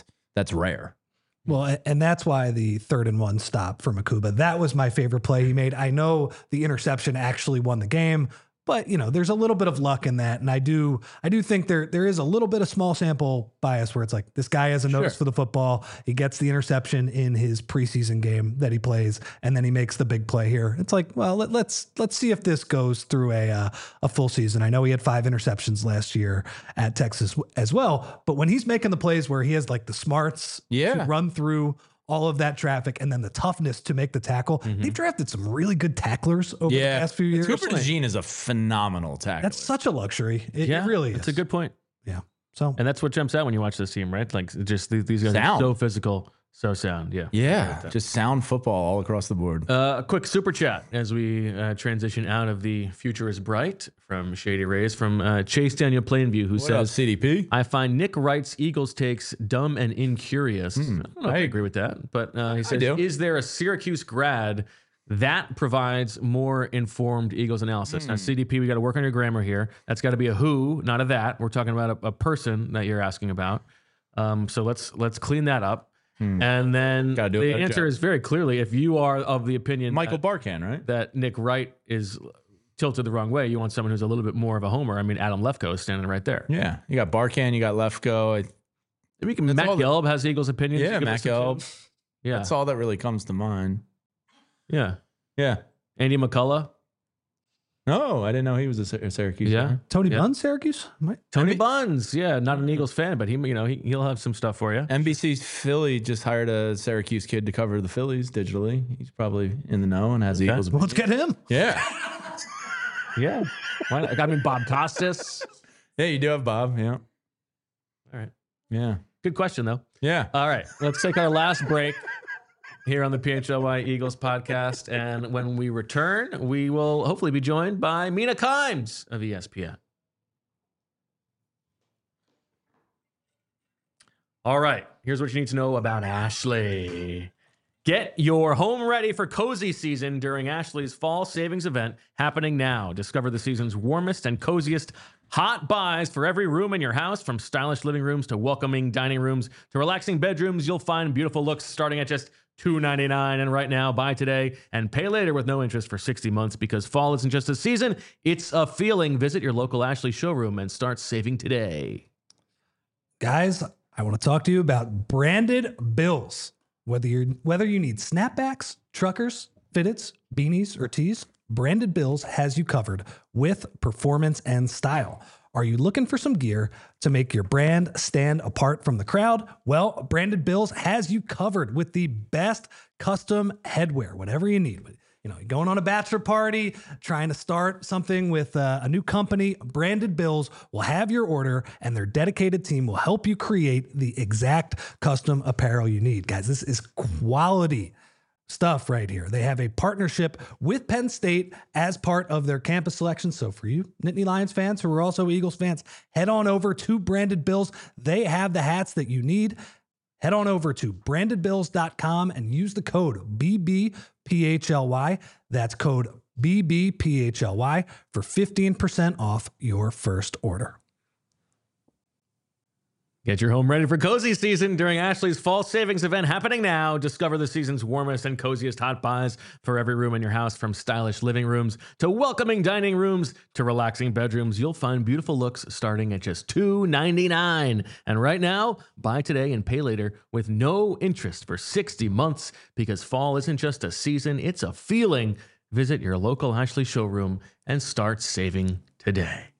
rare. Well, and that's why the 3rd and 1 stop for Makuba, that was my favorite play he made. I know the interception actually won the game, but there's a little bit of luck in that. And I do think there is a little bit of small sample bias where it's like, this guy has a nose for the football. He gets the interception in his preseason game that he plays, and then he makes the big play here. It's like, well, let's see if this goes through a full season. I know he had 5 interceptions last year at Texas as well, but when he's making the plays where he has like the smarts to run through all of that traffic and then the toughness to make the tackle. They've drafted some really good tacklers over the past few years. Cooper DeJean is a phenomenal tackler. That's such a luxury. It really is. That's a good point. Yeah. So, and that's what jumps out when you watch this team, right? Like just these guys are so physical, so sound. Yeah. Yeah. Just sound football all across the board. A quick super chat as we transition out of the future is bright from Shady Rays from Chase Daniel Plainview, who says, CDP? I find Nick Wright's Eagles takes dumb and incurious. I don't know if I agree with that, but he says, is there a Syracuse grad that provides more informed Eagles analysis? Now, CDP, we got to work on your grammar here. That's got to be a who, not a that. We're talking about a person that you're asking about. So let's clean that up. And then the answer is very clearly, if you are of the opinion Michael Barkan, right? That Nick Wright is tilted the wrong way, you want someone who's a little bit more of a homer. I mean, Adam Lefkoe is standing right there. Yeah. You got Barkan, you got Lefkoe. Matt Gelb has Eagles opinions. Yeah, Matt Gelb. Yeah. That's all that really comes to mind. Yeah. Yeah. Andy McCullough. No, I didn't know he was a Syracuse. Yeah. Fan. Tony Bunn, Syracuse? Tony Buns. Yeah. Not an Eagles fan, but he'll have some stuff for you. NBC Philly just hired a Syracuse kid to cover the Phillies digitally. He's probably in the know and has Eagles. Well, let's get him. Yeah. Yeah. Why not? I mean, Bob Costas. Yeah, you do have Bob. Yeah. All right. Yeah. Good question, though. Yeah. All right. Let's take our last break here on the PHLY Eagles podcast. And when we return, we will hopefully be joined by Mina Kimes of ESPN. All right. Here's what you need to know about Ashley. Get your home ready for cozy season during Ashley's fall savings event happening now. Discover the season's warmest and coziest hot buys for every room in your house, from stylish living rooms to welcoming dining rooms to relaxing bedrooms. You'll find beautiful looks starting at just $2.99. And right now, buy today and pay later with no interest for 60 months, because fall isn't just a season, it's a feeling. Visit your local Ashley showroom and start saving today. Guys, I want to talk to you about branded bills. Whether you need snapbacks, truckers, fitteds, beanies, or tees, Branded Bills has you covered with performance and style. Are you looking for some gear to make your brand stand apart from the crowd? Well, Branded Bills has you covered with the best custom headwear, whatever you need. You're going on a bachelor party, trying to start something with a new company, Branded Bills will have your order, and their dedicated team will help you create the exact custom apparel you need. Guys, this is quality stuff right here. They have a partnership with Penn State as part of their campus selection. So for you Nittany Lions fans who are also Eagles fans, head on over to Branded Bills. They have the hats that you need. Head on over to brandedbills.com and use the code BBPHLY. That's code BBPHLY for 15% off your first order. Get your home ready for cozy season during Ashley's fall savings event happening now. Discover the season's warmest and coziest hot buys for every room in your house, from stylish living rooms to welcoming dining rooms to relaxing bedrooms. You'll find beautiful looks starting at just $2.99. And right now, buy today and pay later with no interest for 60 months, because fall isn't just a season, it's a feeling. Visit your local Ashley showroom and start saving today.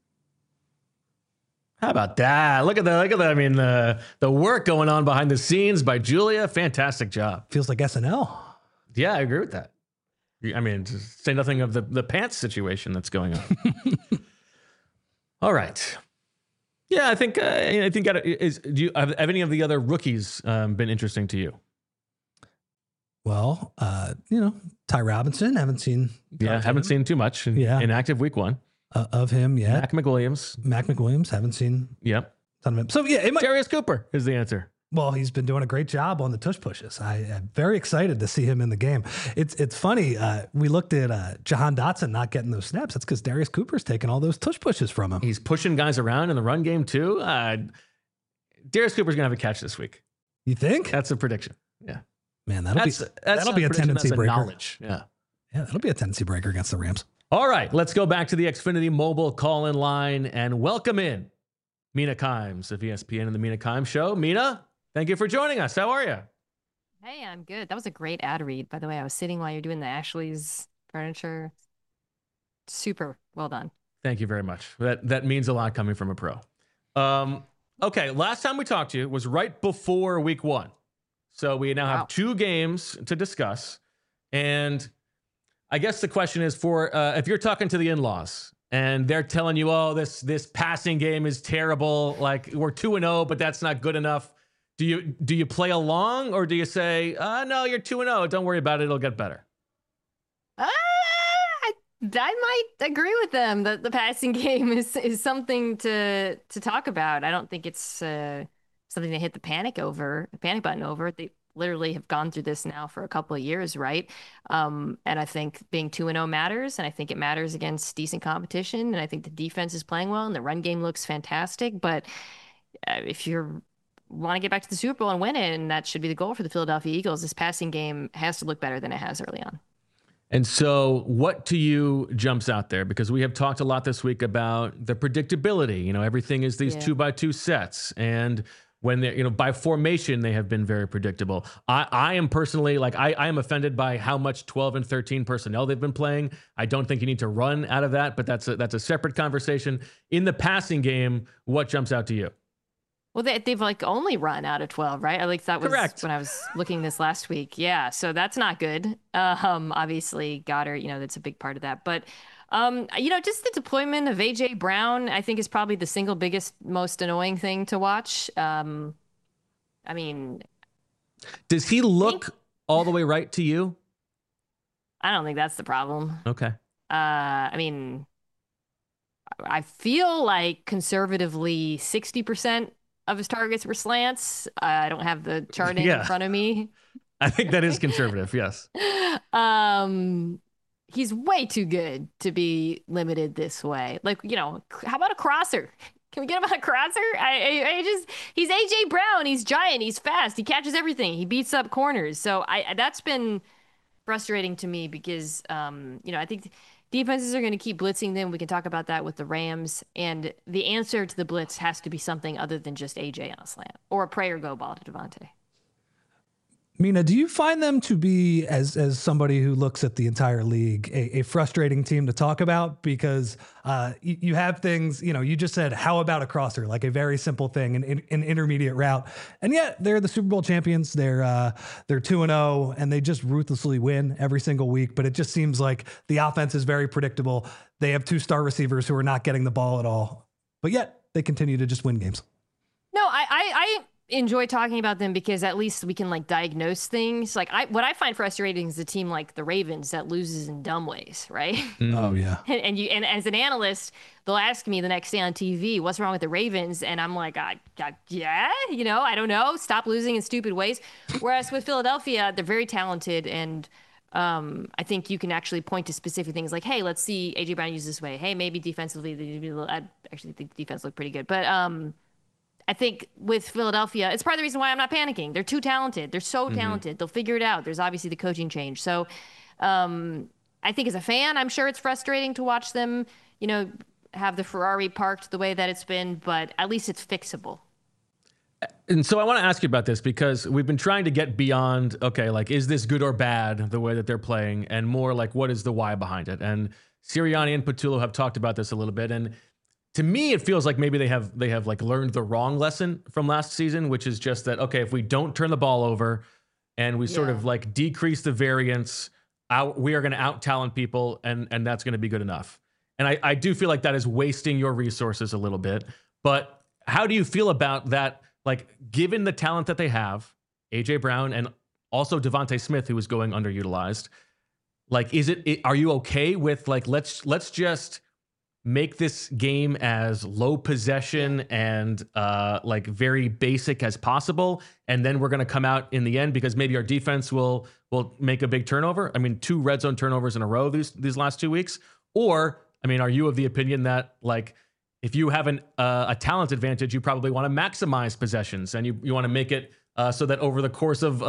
How about that? Look at that. I mean, the work going on behind the scenes by Julia. Fantastic job. Feels like SNL. Yeah, I agree with that. I mean, to say nothing of the pants situation that's going on. All right. Yeah, I think do you have any of the other rookies been interesting to you? Well, Ty Robinson, haven't seen too much in active week one. Of him yet. Mac McWilliams, haven't seen. Yep. Ton of him. So yeah, Darius Cooper is the answer. Well, he's been doing a great job on the tush pushes. I'm very excited to see him in the game. It's funny. We looked at Jahan Dotson not getting those snaps. That's because Darius Cooper's taking all those tush pushes from him. He's pushing guys around in the run game too. Darius Cooper's gonna have a catch this week. You think? That's a prediction. Yeah. Man, that'll be a tendency breaker. Knowledge. Yeah. Yeah, that'll be a tendency breaker against the Rams. All right, let's go back to the Xfinity mobile call-in line and welcome in Mina Kimes of ESPN and the Mina Kimes Show. Mina, thank you for joining us. How are you? Hey, I'm good. That was a great ad read, by the way. I was sitting while you're doing the Ashley's furniture. Super well done. Thank you very much. That means a lot coming from a pro. Okay, last time we talked to you was right before week one. So we now have 2 games to discuss. And I guess the question is for if you're talking to the in-laws and they're telling you, oh, this passing game is terrible, like we're 2-0, but that's not good enough. Do you play along, or do you say, no, you're 2-0, don't worry about it, it'll get better? I might agree with them that the passing game is something to talk about. I don't think it's something to hit the panic button over. They literally have gone through this now for a couple of years, right? And I think being 2-0 matters, and I think it matters against decent competition, and I think the defense is playing well, and the run game looks fantastic. But if you want to get back to the Super Bowl and win it, and that should be the goal for the Philadelphia Eagles, this passing game has to look better than it has early on. And so what to you jumps out there? Because we have talked a lot this week about the predictability. Everything is these 2x2 sets, and when they're, by formation, they have been very predictable. I am personally, I am offended by how much 12 and 13 personnel they've been playing. I don't think you need to run out of that, but that's a separate conversation. In the passing game, what jumps out to you? Well, they've only run out of 12, right? That was correct when I was looking this last week. Yeah, so that's not good. Obviously, Goddard, that's a big part of that. But just the deployment of AJ Brown, I think, is probably the single biggest, most annoying thing to watch. I mean, does he look all the way right to you? I don't think that's the problem. Okay. I mean, I feel like conservatively 60% of his targets were slants. I don't have the charting in front of me. I think that is conservative. Yes. He's way too good to be limited this way. How about a crosser? Can we get him on a crosser? He's AJ Brown. He's giant. He's fast. He catches everything. He beats up corners. So that's been frustrating to me because, I think defenses are going to keep blitzing them. We can talk about that with the Rams. And the answer to the blitz has to be something other than just AJ on a slant or a pray or go ball to Devontae. Mina, do you find them to be, as somebody who looks at the entire league, a frustrating team to talk about? Because you have things, you just said, how about a crosser? Like a very simple thing, an intermediate route. And yet they're the Super Bowl champions. They're 2-0, and they just ruthlessly win every single week. But it just seems like the offense is very predictable. They have 2 star receivers who are not getting the ball at all. But yet they continue to just win games. No, I enjoy talking about them because at least we can diagnose things. What I find frustrating is a team like the Ravens that loses in dumb ways, right? Oh yeah. And as an analyst, they'll ask me the next day on TV, what's wrong with the Ravens? And I'm like, I don't know. Stop losing in stupid ways. Whereas with Philadelphia, they're very talented, and I think you can actually point to specific things like, hey, let's see AJ Brown use this way. Hey, maybe defensively, I actually think the defense looked pretty good, but I think with Philadelphia, it's part of the reason why I'm not panicking. They're too talented. They're so talented. They'll figure it out. There's obviously the coaching change. So I think as a fan, I'm sure it's frustrating to watch them, have the Ferrari parked the way that it's been, but at least it's fixable. And so I want to ask you about this because we've been trying to get beyond, okay, like, is this good or bad, the way that they're playing, and more like, what is the why behind it? And Sirianni and Patullo have talked about this a little bit. And to me, it feels like maybe they have like learned the wrong lesson from last season, which is just that, okay, if we don't turn the ball over and we sort of like decrease the variance, we are going to out-talent people, and that's going to be good enough. And I do feel like that is wasting your resources a little bit. But how do you feel about that? Like, given the talent that they have, A.J. Brown and also Devontae Smith, who is going underutilized, like, are you okay with, like, let's just make this game as low possession and like very basic as possible, and then we're going to come out in the end because maybe our defense will make a big turnover? I mean, 2 red zone turnovers in a row these last 2 weeks. Or, I mean, are you of the opinion that, like, if you have a talent advantage, you probably want to maximize possessions, and you want to make it so that over the course of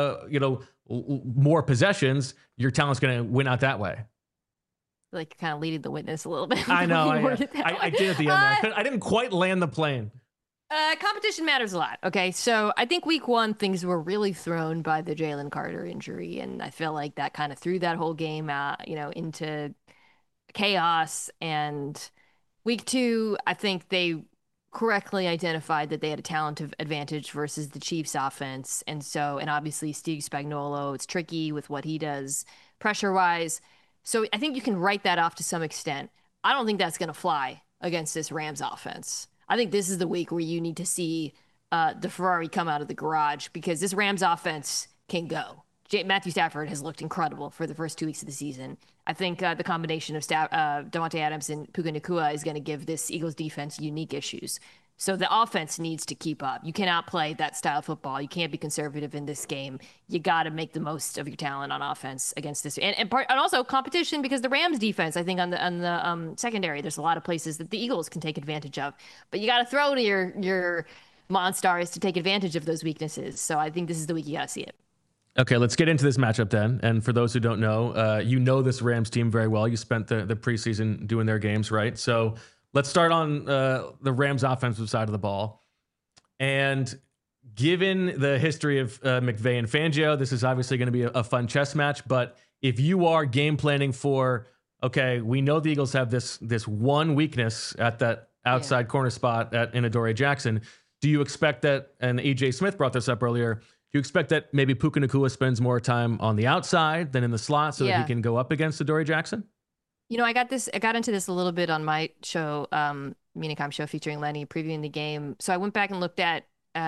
more possessions, your talent's going to win out that way? Like, kind of leading the witness a little bit. I know. I did at the end. I didn't quite land the plane. Competition matters a lot. Okay, so I think week 1 things were really thrown by the Jalen Carter injury, and I feel like that kind of threw that whole game out, into chaos. And week 2, I think they correctly identified that they had a talent advantage versus the Chiefs offense. And obviously Steve Spagnuolo, it's tricky with what he does pressure-wise. So I think you can write that off to some extent. I don't think that's going to fly against this Rams offense. I think this is the week where you need to see the Ferrari come out of the garage, because this Rams offense can go. Matthew Stafford has looked incredible for the first 2 weeks of the season. I think the combination of Davante Adams and Puka Nacua is going to give this Eagles defense unique issues. So the offense needs to keep up. You cannot play that style of football. You can't be conservative in this game. You got to make the most of your talent on offense against this, and also competition, because the Rams defense, I think on the secondary, there's a lot of places that the Eagles can take advantage of. But you got to throw to your Monstars to take advantage of those weaknesses. So I think this is the week you got to see it. Okay, let's get into this matchup then. And for those who don't know, you know this Rams team very well. You spent the preseason doing their games, right? So let's start on the Rams offensive side of the ball. And given the history of McVay and Fangio, this is obviously going to be a fun chess match. But if you are game planning for, okay, we know the Eagles have this one weakness at that outside corner spot in Adoree Jackson, do you expect that, and E.J. Smith brought this up earlier, do you expect that maybe Puka Nacua spends more time on the outside than in the slot so that he can go up against Adoree Jackson? I got into this a little bit on my show, Minicom show featuring Lenny, previewing the game. So I went back and looked at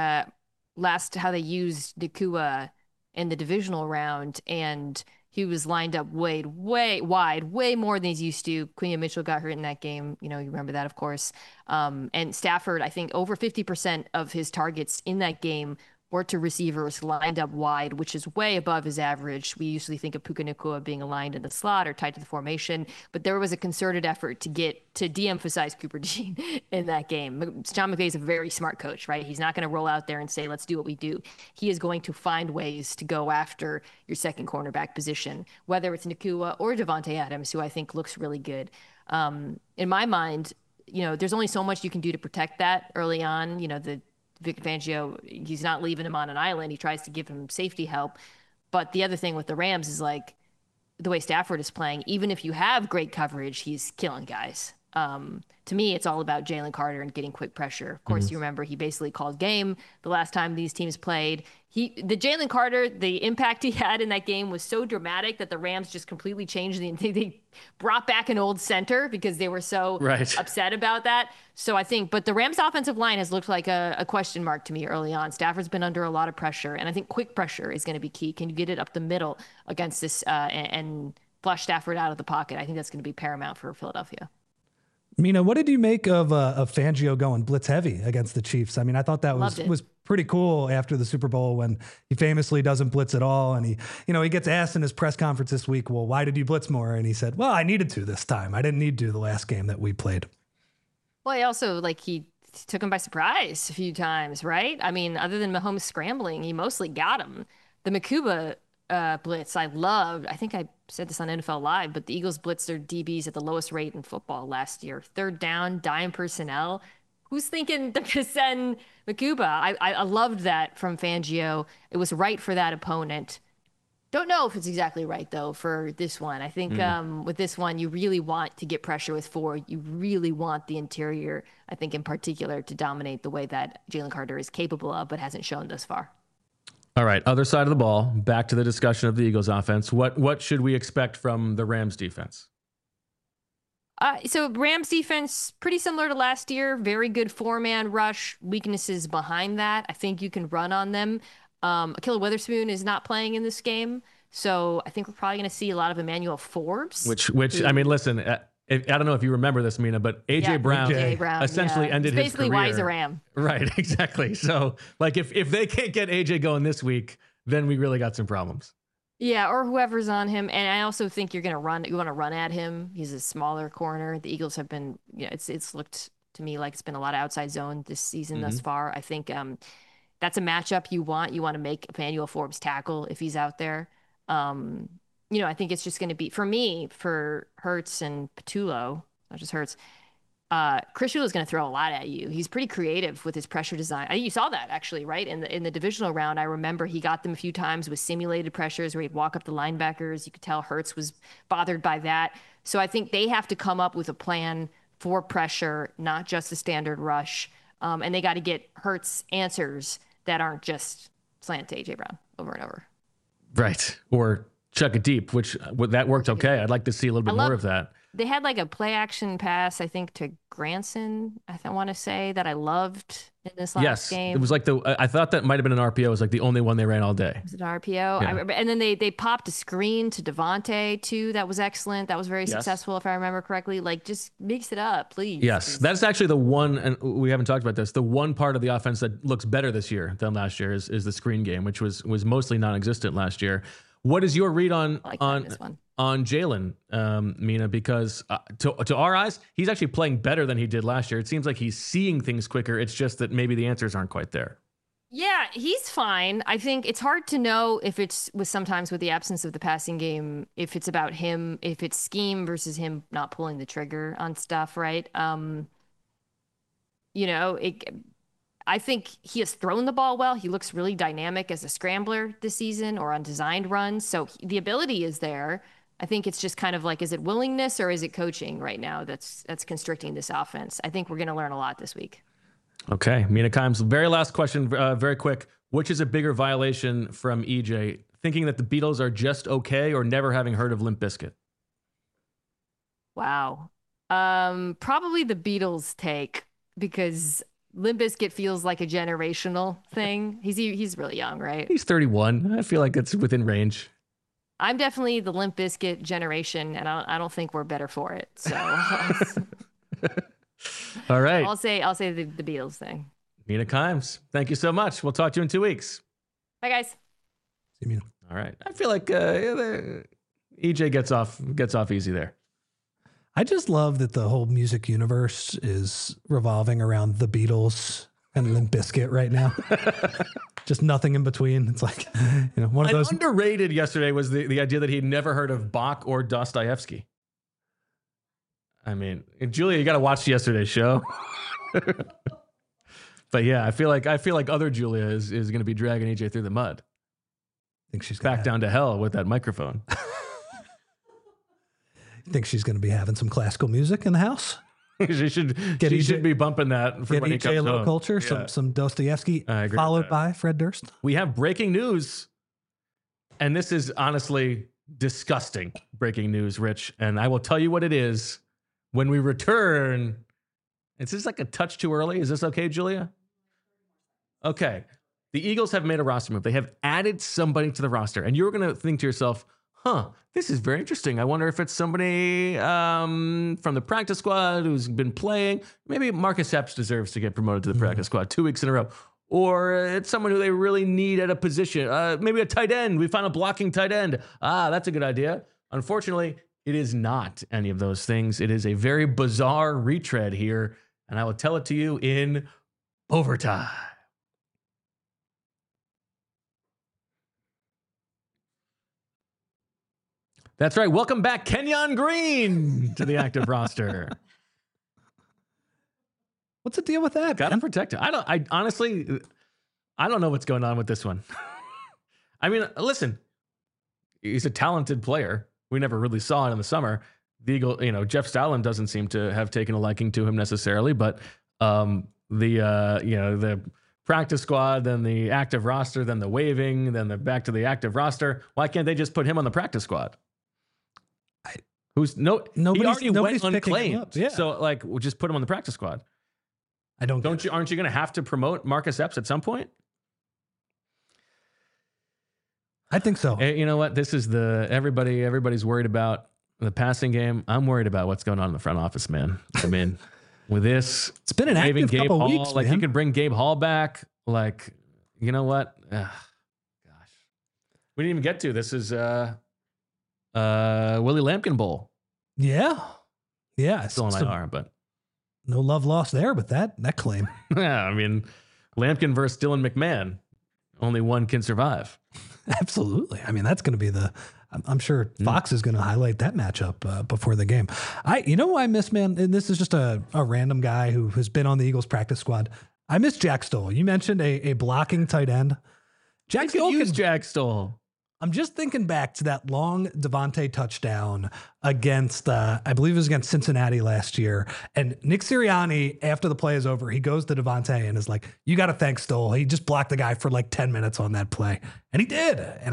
how they used Nacua in the divisional round, and he was lined up way wide, way more than he's used to. Quinion Mitchell got hurt in that game. You remember that, of course. And Stafford, I think over 50% of his targets in that game were to receivers lined up wide, which is way above his average. We usually think of Puka Nacua being aligned in the slot or tight to the formation, but there was a concerted effort to de-emphasize Cooper Dean in that game. Sean McVay is a very smart coach, right? He's not going to roll out there and say, let's do what we do. He is going to find ways to go after your second cornerback position, whether it's Nacua or Davante Adams, who I think looks really good. In my mind, there's only so much you can do to protect that early on. Vic Fangio, he's not leaving him on an island. He tries to give him safety help. But the other thing with the Rams is, like, the way Stafford is playing, even if you have great coverage, he's killing guys. To me, it's all about Jalen Carter and getting quick pressure. Of course, you remember he basically called game the last time these teams played. The Jalen Carter, the impact he had in that game was so dramatic that the Rams just completely changed they brought back an old center because they were so upset about that. So I think, but the Rams offensive line has looked like a question mark to me early on. Stafford's been under a lot of pressure, and I think quick pressure is going to be key. Can you get it up the middle against this and flush Stafford out of the pocket? I think that's going to be paramount for Philadelphia. Mina, what did you make of Fangio going blitz heavy against the Chiefs? I mean, I thought that was pretty cool after the Super Bowl when he famously doesn't blitz at all. And he gets asked in his press conference this week, well, why did you blitz more? And he said, well, I needed to this time. I didn't need to the last game that we played. Well, he also, he took him by surprise a few times, right? I mean, other than Mahomes scrambling, he mostly got him. The Makuba blitz, I loved. I think I said this on NFL Live, but the Eagles blitzed their DBs at the lowest rate in football last year. Third down, dime personnel. Who's thinking they're going to send Makuba? I loved that from Fangio. It was right for that opponent. Don't know if it's exactly right, though, for this one. I think with this one, you really want to get pressure with Ford. You really want the interior, I think, in particular, to dominate the way that Jalen Carter is capable of, but hasn't shown thus far. All right, other side of the ball, back to the discussion of the Eagles offense. What should we expect from the Rams defense? So Rams defense, pretty similar to last year. Very good four-man rush. Weaknesses behind that. I think you can run on them. Ahkello Witherspoon is not playing in this game, so I think we're probably going to see a lot of Emmanuel Forbes. Which I mean, listen, I don't know if you remember this, Mina, but AJ Brown essentially ended his career. Basically, why he's a Ram. Right, exactly. So, like, if they can't get AJ going this week, then we really got some problems. Yeah, or whoever's on him. And I also think you want to run at him. He's a smaller corner. The Eagles have been, it's looked to me like it's been a lot of outside zone this season thus far. I think that's a matchup you want. You want to make Emmanuel Forbes tackle if he's out there. I think it's just going to be, for me, for Hurts and Patullo, not just Hurts, Chris Shula is going to throw a lot at you. He's pretty creative with his pressure design. I think you saw that actually, right? In the divisional round, I remember he got them a few times with simulated pressures where he'd walk up the linebackers. You could tell Hurts was bothered by that. So I think they have to come up with a plan for pressure, not just a standard rush. And they got to get Hurts answers that aren't just slant to AJ Brown over and over. Right. Or chuck it deep, which that worked okay. I'd like to see a little bit more of that. They had like a play action pass, I think, to Granson, I want to say, that I loved in this last game. It was like I thought that might have been an RPO. It was like the only one they ran all day. Was it an RPO? Yeah. And then they popped a screen to Devontae too. That was excellent. That was very successful, if I remember correctly. Like, just mix it up, please. Yes, that's actually the one, and we haven't talked about this, the one part of the offense that looks better this year than last year is the screen game, which was mostly non-existent last year. What is your read on Jalen, Mina? Because to our eyes, he's actually playing better than he did last year. It seems like he's seeing things quicker. It's just that maybe the answers aren't quite there. Yeah, he's fine. I think it's hard to know if it's sometimes with the absence of the passing game, if it's about him, if it's scheme versus him not pulling the trigger on stuff, right? I think he has thrown the ball well. He looks really dynamic as a scrambler this season or on designed runs. So the ability is there. I think it's just kind of like, is it willingness or is it coaching right now that's constricting this offense? I think we're going to learn a lot this week. Okay. Mina Kimes, very last question, very quick. Which is a bigger violation from EJ? Thinking that the Beatles are just okay or never having heard of Limp Bizkit? Wow. Probably the Beatles take, because Limp Bizkit feels like a generational thing. He's really young, right? He's 31. I feel like it's within range. I'm definitely the Limp Bizkit generation, and I don't think we're better for it. So, all right. I'll say the Beatles thing. Mina Kimes, thank you so much. We'll talk to you in 2 weeks. Bye, guys. See you, Mina. All right. I feel like EJ gets off easy there. I just love that the whole music universe is revolving around the Beatles and Limp Bizkit right now. Just nothing in between. It's like, one of those. Underrated yesterday was the idea that he'd never heard of Bach or Dostoevsky. I mean, Julia, you got to watch yesterday's show. But yeah, I feel like other Julia is going to be dragging EJ through the mud. I think she's back down to hell with that microphone. Think she's going to be having some classical music in the house? she should be bumping that for when he comes low home. Culture, some Dostoevsky, followed by Fred Durst. We have breaking news, and this is honestly disgusting breaking news, Rich. And I will tell you what it is when we return. Is this like a touch too early? Is this okay, Julia? Okay. The Eagles have made a roster move. They have added somebody to the roster, and you're going to think to yourself, this is very interesting. I wonder if it's somebody from the practice squad who's been playing. Maybe Marcus Epps deserves to get promoted to the practice squad 2 weeks in a row. Or it's someone who they really need at a position. Maybe a tight end. We found a blocking tight end. That's a good idea. Unfortunately, it is not any of those things. It is a very bizarre retread here. and I will tell it to you in overtime. That's right. Welcome back, Kenyon Green, to the active roster. What's the deal with that? Got him protected. I honestly, I don't know what's going on with this one. I mean, listen, he's a talented player. We never really saw it in the summer. The Eagle, Jeff Stoutland doesn't seem to have taken a liking to him necessarily, but the practice squad, then the active roster, then the waiving, then back to the active roster. Why can't they just put him on the practice squad? He already went unclaimed. Yeah. So we'll just put him on the practice squad. Aren't you going to have to promote Marcus Epps at some point? I think so. You know what? This is everybody's worried about the passing game. I'm worried about what's going on in the front office, man. I mean, with this, it's been an active Gabe couple Hall, weeks, man. you could bring Gabe Hall back. You know what? Gosh, we didn't even get to this. Is Willie Lampkin Bowl? Yeah. Still on IR, but no love lost there with that claim. Yeah, I mean, Lampkin versus Dylan McMahon. Only one can survive. Absolutely. I mean, that's going to be I'm sure Fox is going to highlight that matchup before the game. Who I miss, man, and this is just a random guy who has been on the Eagles practice squad. I miss Jack Stoll. You mentioned a blocking tight end. Jack Stoll. I'm just thinking back to that long Devontae touchdown against, I believe it was against Cincinnati last year. And Nick Sirianni, after the play is over, he goes to Devontae and is like, you got to thank Stoll. He just blocked the guy for 10 minutes on that play. And he did. And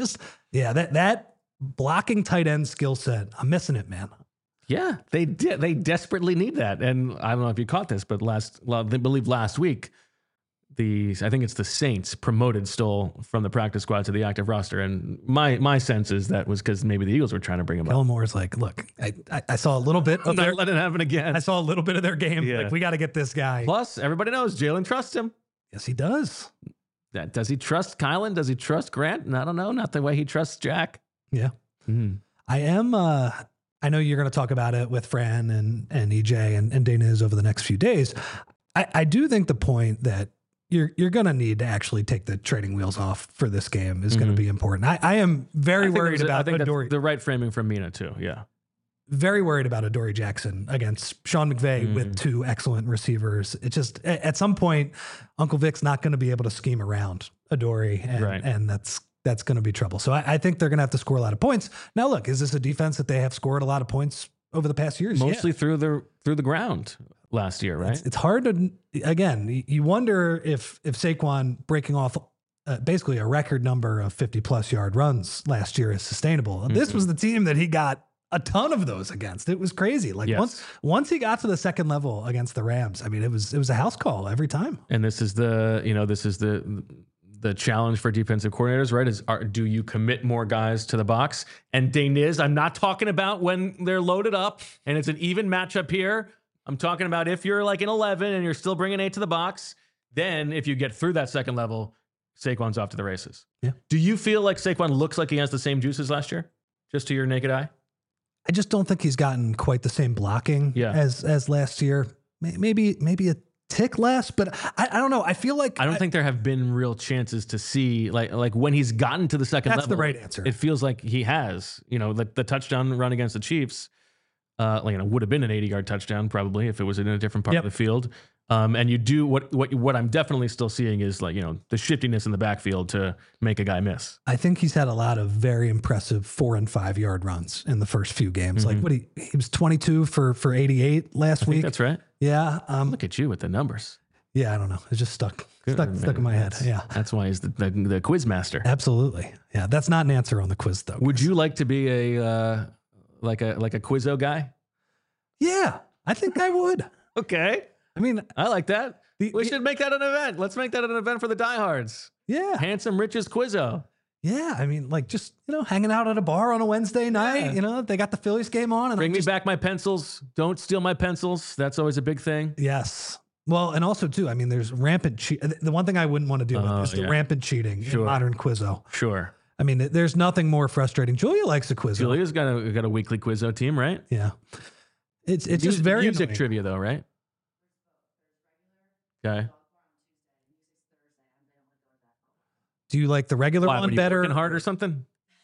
that blocking tight end skill set, I'm missing it, man. Yeah, they did. They desperately need that. And I don't know if you caught this, but I believe last week, I think it's the Saints promoted Stoll from the practice squad to the active roster. And my sense is that was because maybe the Eagles were trying to bring him Kellen Moore's like, look, I saw a little bit of not let it happen again. I saw a little bit of their game. Yeah. We got to get this guy. Plus, everybody knows Jalen trusts him. Yes, he does. Does he trust Kylan? Does he trust Grant? I don't know. Not the way he trusts Jack. Yeah. I am. I know you're going to talk about it with Fran and EJ and Daniz over the next few days. I do think the point that you're going to need to actually take the training wheels off for this game is going to be important. I am very worried about Adoree. The right framing from Mina too. Yeah. Very worried about Adoree Jackson against Sean McVay with two excellent receivers. It's just at some point, Uncle Vic's not going to be able to scheme around Adoree, and that's going to be trouble. So I think they're going to have to score a lot of points. Now, look, is this a defense that they have scored a lot of points over the past years? Mostly through the ground last year, right? It's hard to, again, you wonder if Saquon breaking off basically a record number of 50-plus yard runs last year is sustainable. This was the team that he got a ton of those against. It was crazy. Once he got to the second level against the Rams, I mean, it was a house call every time. And this is the challenge for defensive coordinators, right? Do you commit more guys to the box? And Daniz, I'm not talking about when they're loaded up and it's an even matchup here. I'm talking about if you're like an 11 and you're still bringing 8 to the box, then if you get through that second level, Saquon's off to the races. Yeah. Do you feel like Saquon looks like he has the same juices last year, just to your naked eye? I just don't think he's gotten quite the same blocking as last year. Maybe a tick less, but I don't know. I feel like I don't think there have been real chances to see like when he's gotten to the second level. That's the right answer. It feels like he has. The touchdown run against the Chiefs, would have been an 80-yard touchdown probably if it was in a different part of the field. And you do what I'm definitely still seeing is the shiftiness in the backfield to make a guy miss. I think he's had a lot of very impressive 4- and 5-yard runs in the first few games. Like he was 22 for 88 last week. That's right. Yeah. Look at you with the numbers. Yeah, I don't know. It's just stuck in my head. Yeah. That's why he's the quiz master. Absolutely. Yeah. That's not an answer on the quiz though. Would you like to be a like a Quizzo guy? Yeah, I think I would. Okay. I mean, I like that. We should make that an event. Let's make that an event for the diehards. Yeah. Handsome Rich's Quizzo. Yeah. I mean, just, hanging out at a bar on a Wednesday night, they got the Phillies game on. And Bring me back my pencils. Don't steal my pencils. That's always a big thing. Yes. Well, and also too, I mean, there's rampant the one thing I wouldn't want to deal with is the rampant cheating in modern Quizzo. Sure. I mean, there's nothing more frustrating. Julia likes a Quizzo. Julia's got a weekly Quizzo team, right? Yeah. It's just very music annoying. trivia though, right? Okay. Do you like the regular Why, one were you better? working hard or something?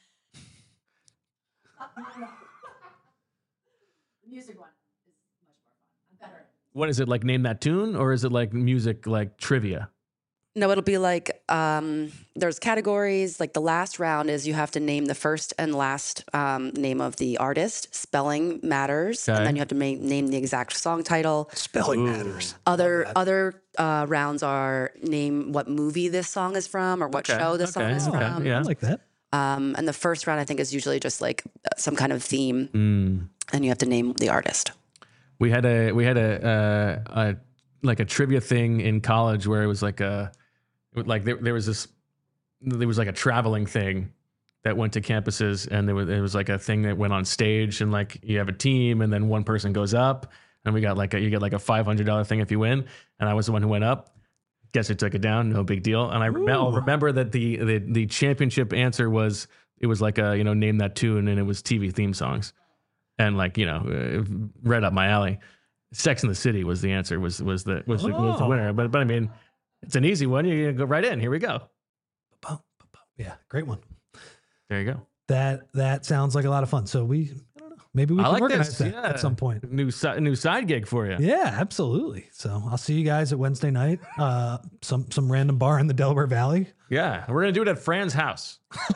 Music one is much more fun. I'm better at it. What is it like? Name that tune, or is it like music, like trivia? No, it'll be like there's categories. Like the last round is you have to name the first and last name of the artist. Spelling matters, Okay. and then you have to name the exact song title. Spelling matters. Other rounds are name what movie this song is from or what Okay, show this song okay, is okay, from. yeah. I like that. And the first round I think is usually just like some kind of theme, Mm. and you have to name the artist. We had a like a trivia thing in college where it was like there was like a traveling thing that went to campuses, and there was like a thing that went on stage, and like you have a team, and then one person goes up, and you get like a $500 thing if you win, and I was the one who went up. Guess who took it down? No big deal. And I'll remember that the championship answer was like a name that tune, and it was TV theme songs, and like right up my alley. Sex and the City was the answer. Was the winner. But I mean, it's an easy one. You go right in. Here we go. Yeah, great one. There you go. That sounds like a lot of fun. So I don't know, maybe we I can like organize this. that Yeah. at some point. New side gig for you. Yeah, absolutely. So I'll see you guys at Wednesday night. Some random bar in the Delaware Valley. Yeah, we're gonna do it at Fran's house.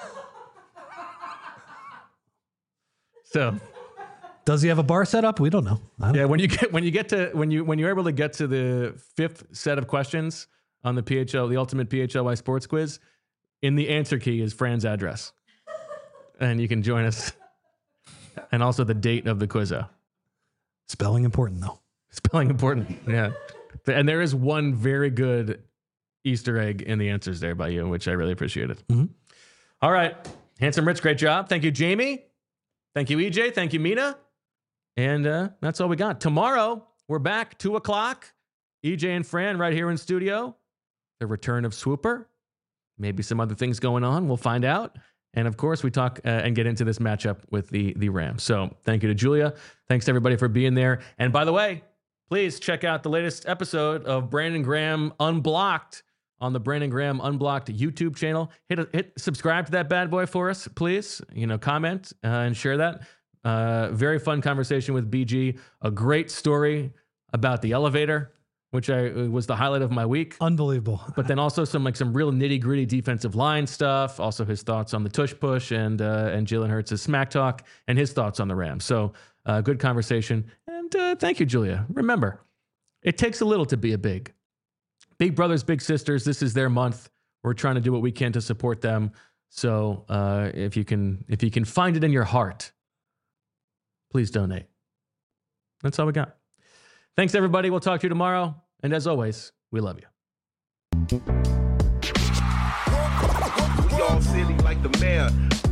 So Does he have a bar set up? We don't know. yeah, when you're able to get to the fifth set of questions on the Ultimate PHLY Sports Quiz, in the answer key is Fran's address, and you can join us. And also the date of the quizzo. Spelling important though. Spelling important. Yeah. And there is one very good Easter egg in the answers there by you, which I really appreciated. Mhm. All right. Handsome Rich, great job. Thank you, Jamie. Thank you, EJ. Thank you, Mina. And that's all we got. Tomorrow, we're back, 2 o'clock. EJ and Fran right here in studio. The return of Swooper. Maybe some other things going on. We'll find out. And of course, we talk and get into this matchup with the Rams. So thank you to Julia. Thanks to everybody for being there. And by the way, please check out the latest episode of Brandon Graham Unblocked on the Brandon Graham Unblocked YouTube channel. Hit subscribe to that bad boy for us, please. Comment and share that. Very fun conversation with BG. A great story about the elevator, which was the highlight of my week. Unbelievable. But then also some real nitty gritty defensive line stuff. Also his thoughts on the tush push and Jalen Hurts' smack talk and his thoughts on the Rams. So good conversation. And thank you, Julia. Remember, it takes a little to be a big. Big brothers, big sisters. This is their month. We're trying to do what we can to support them. So if you can find it in your heart, please donate. That's all we got. Thanks, everybody. We'll talk to you tomorrow. And as always, we love you. We all silly like the mayor.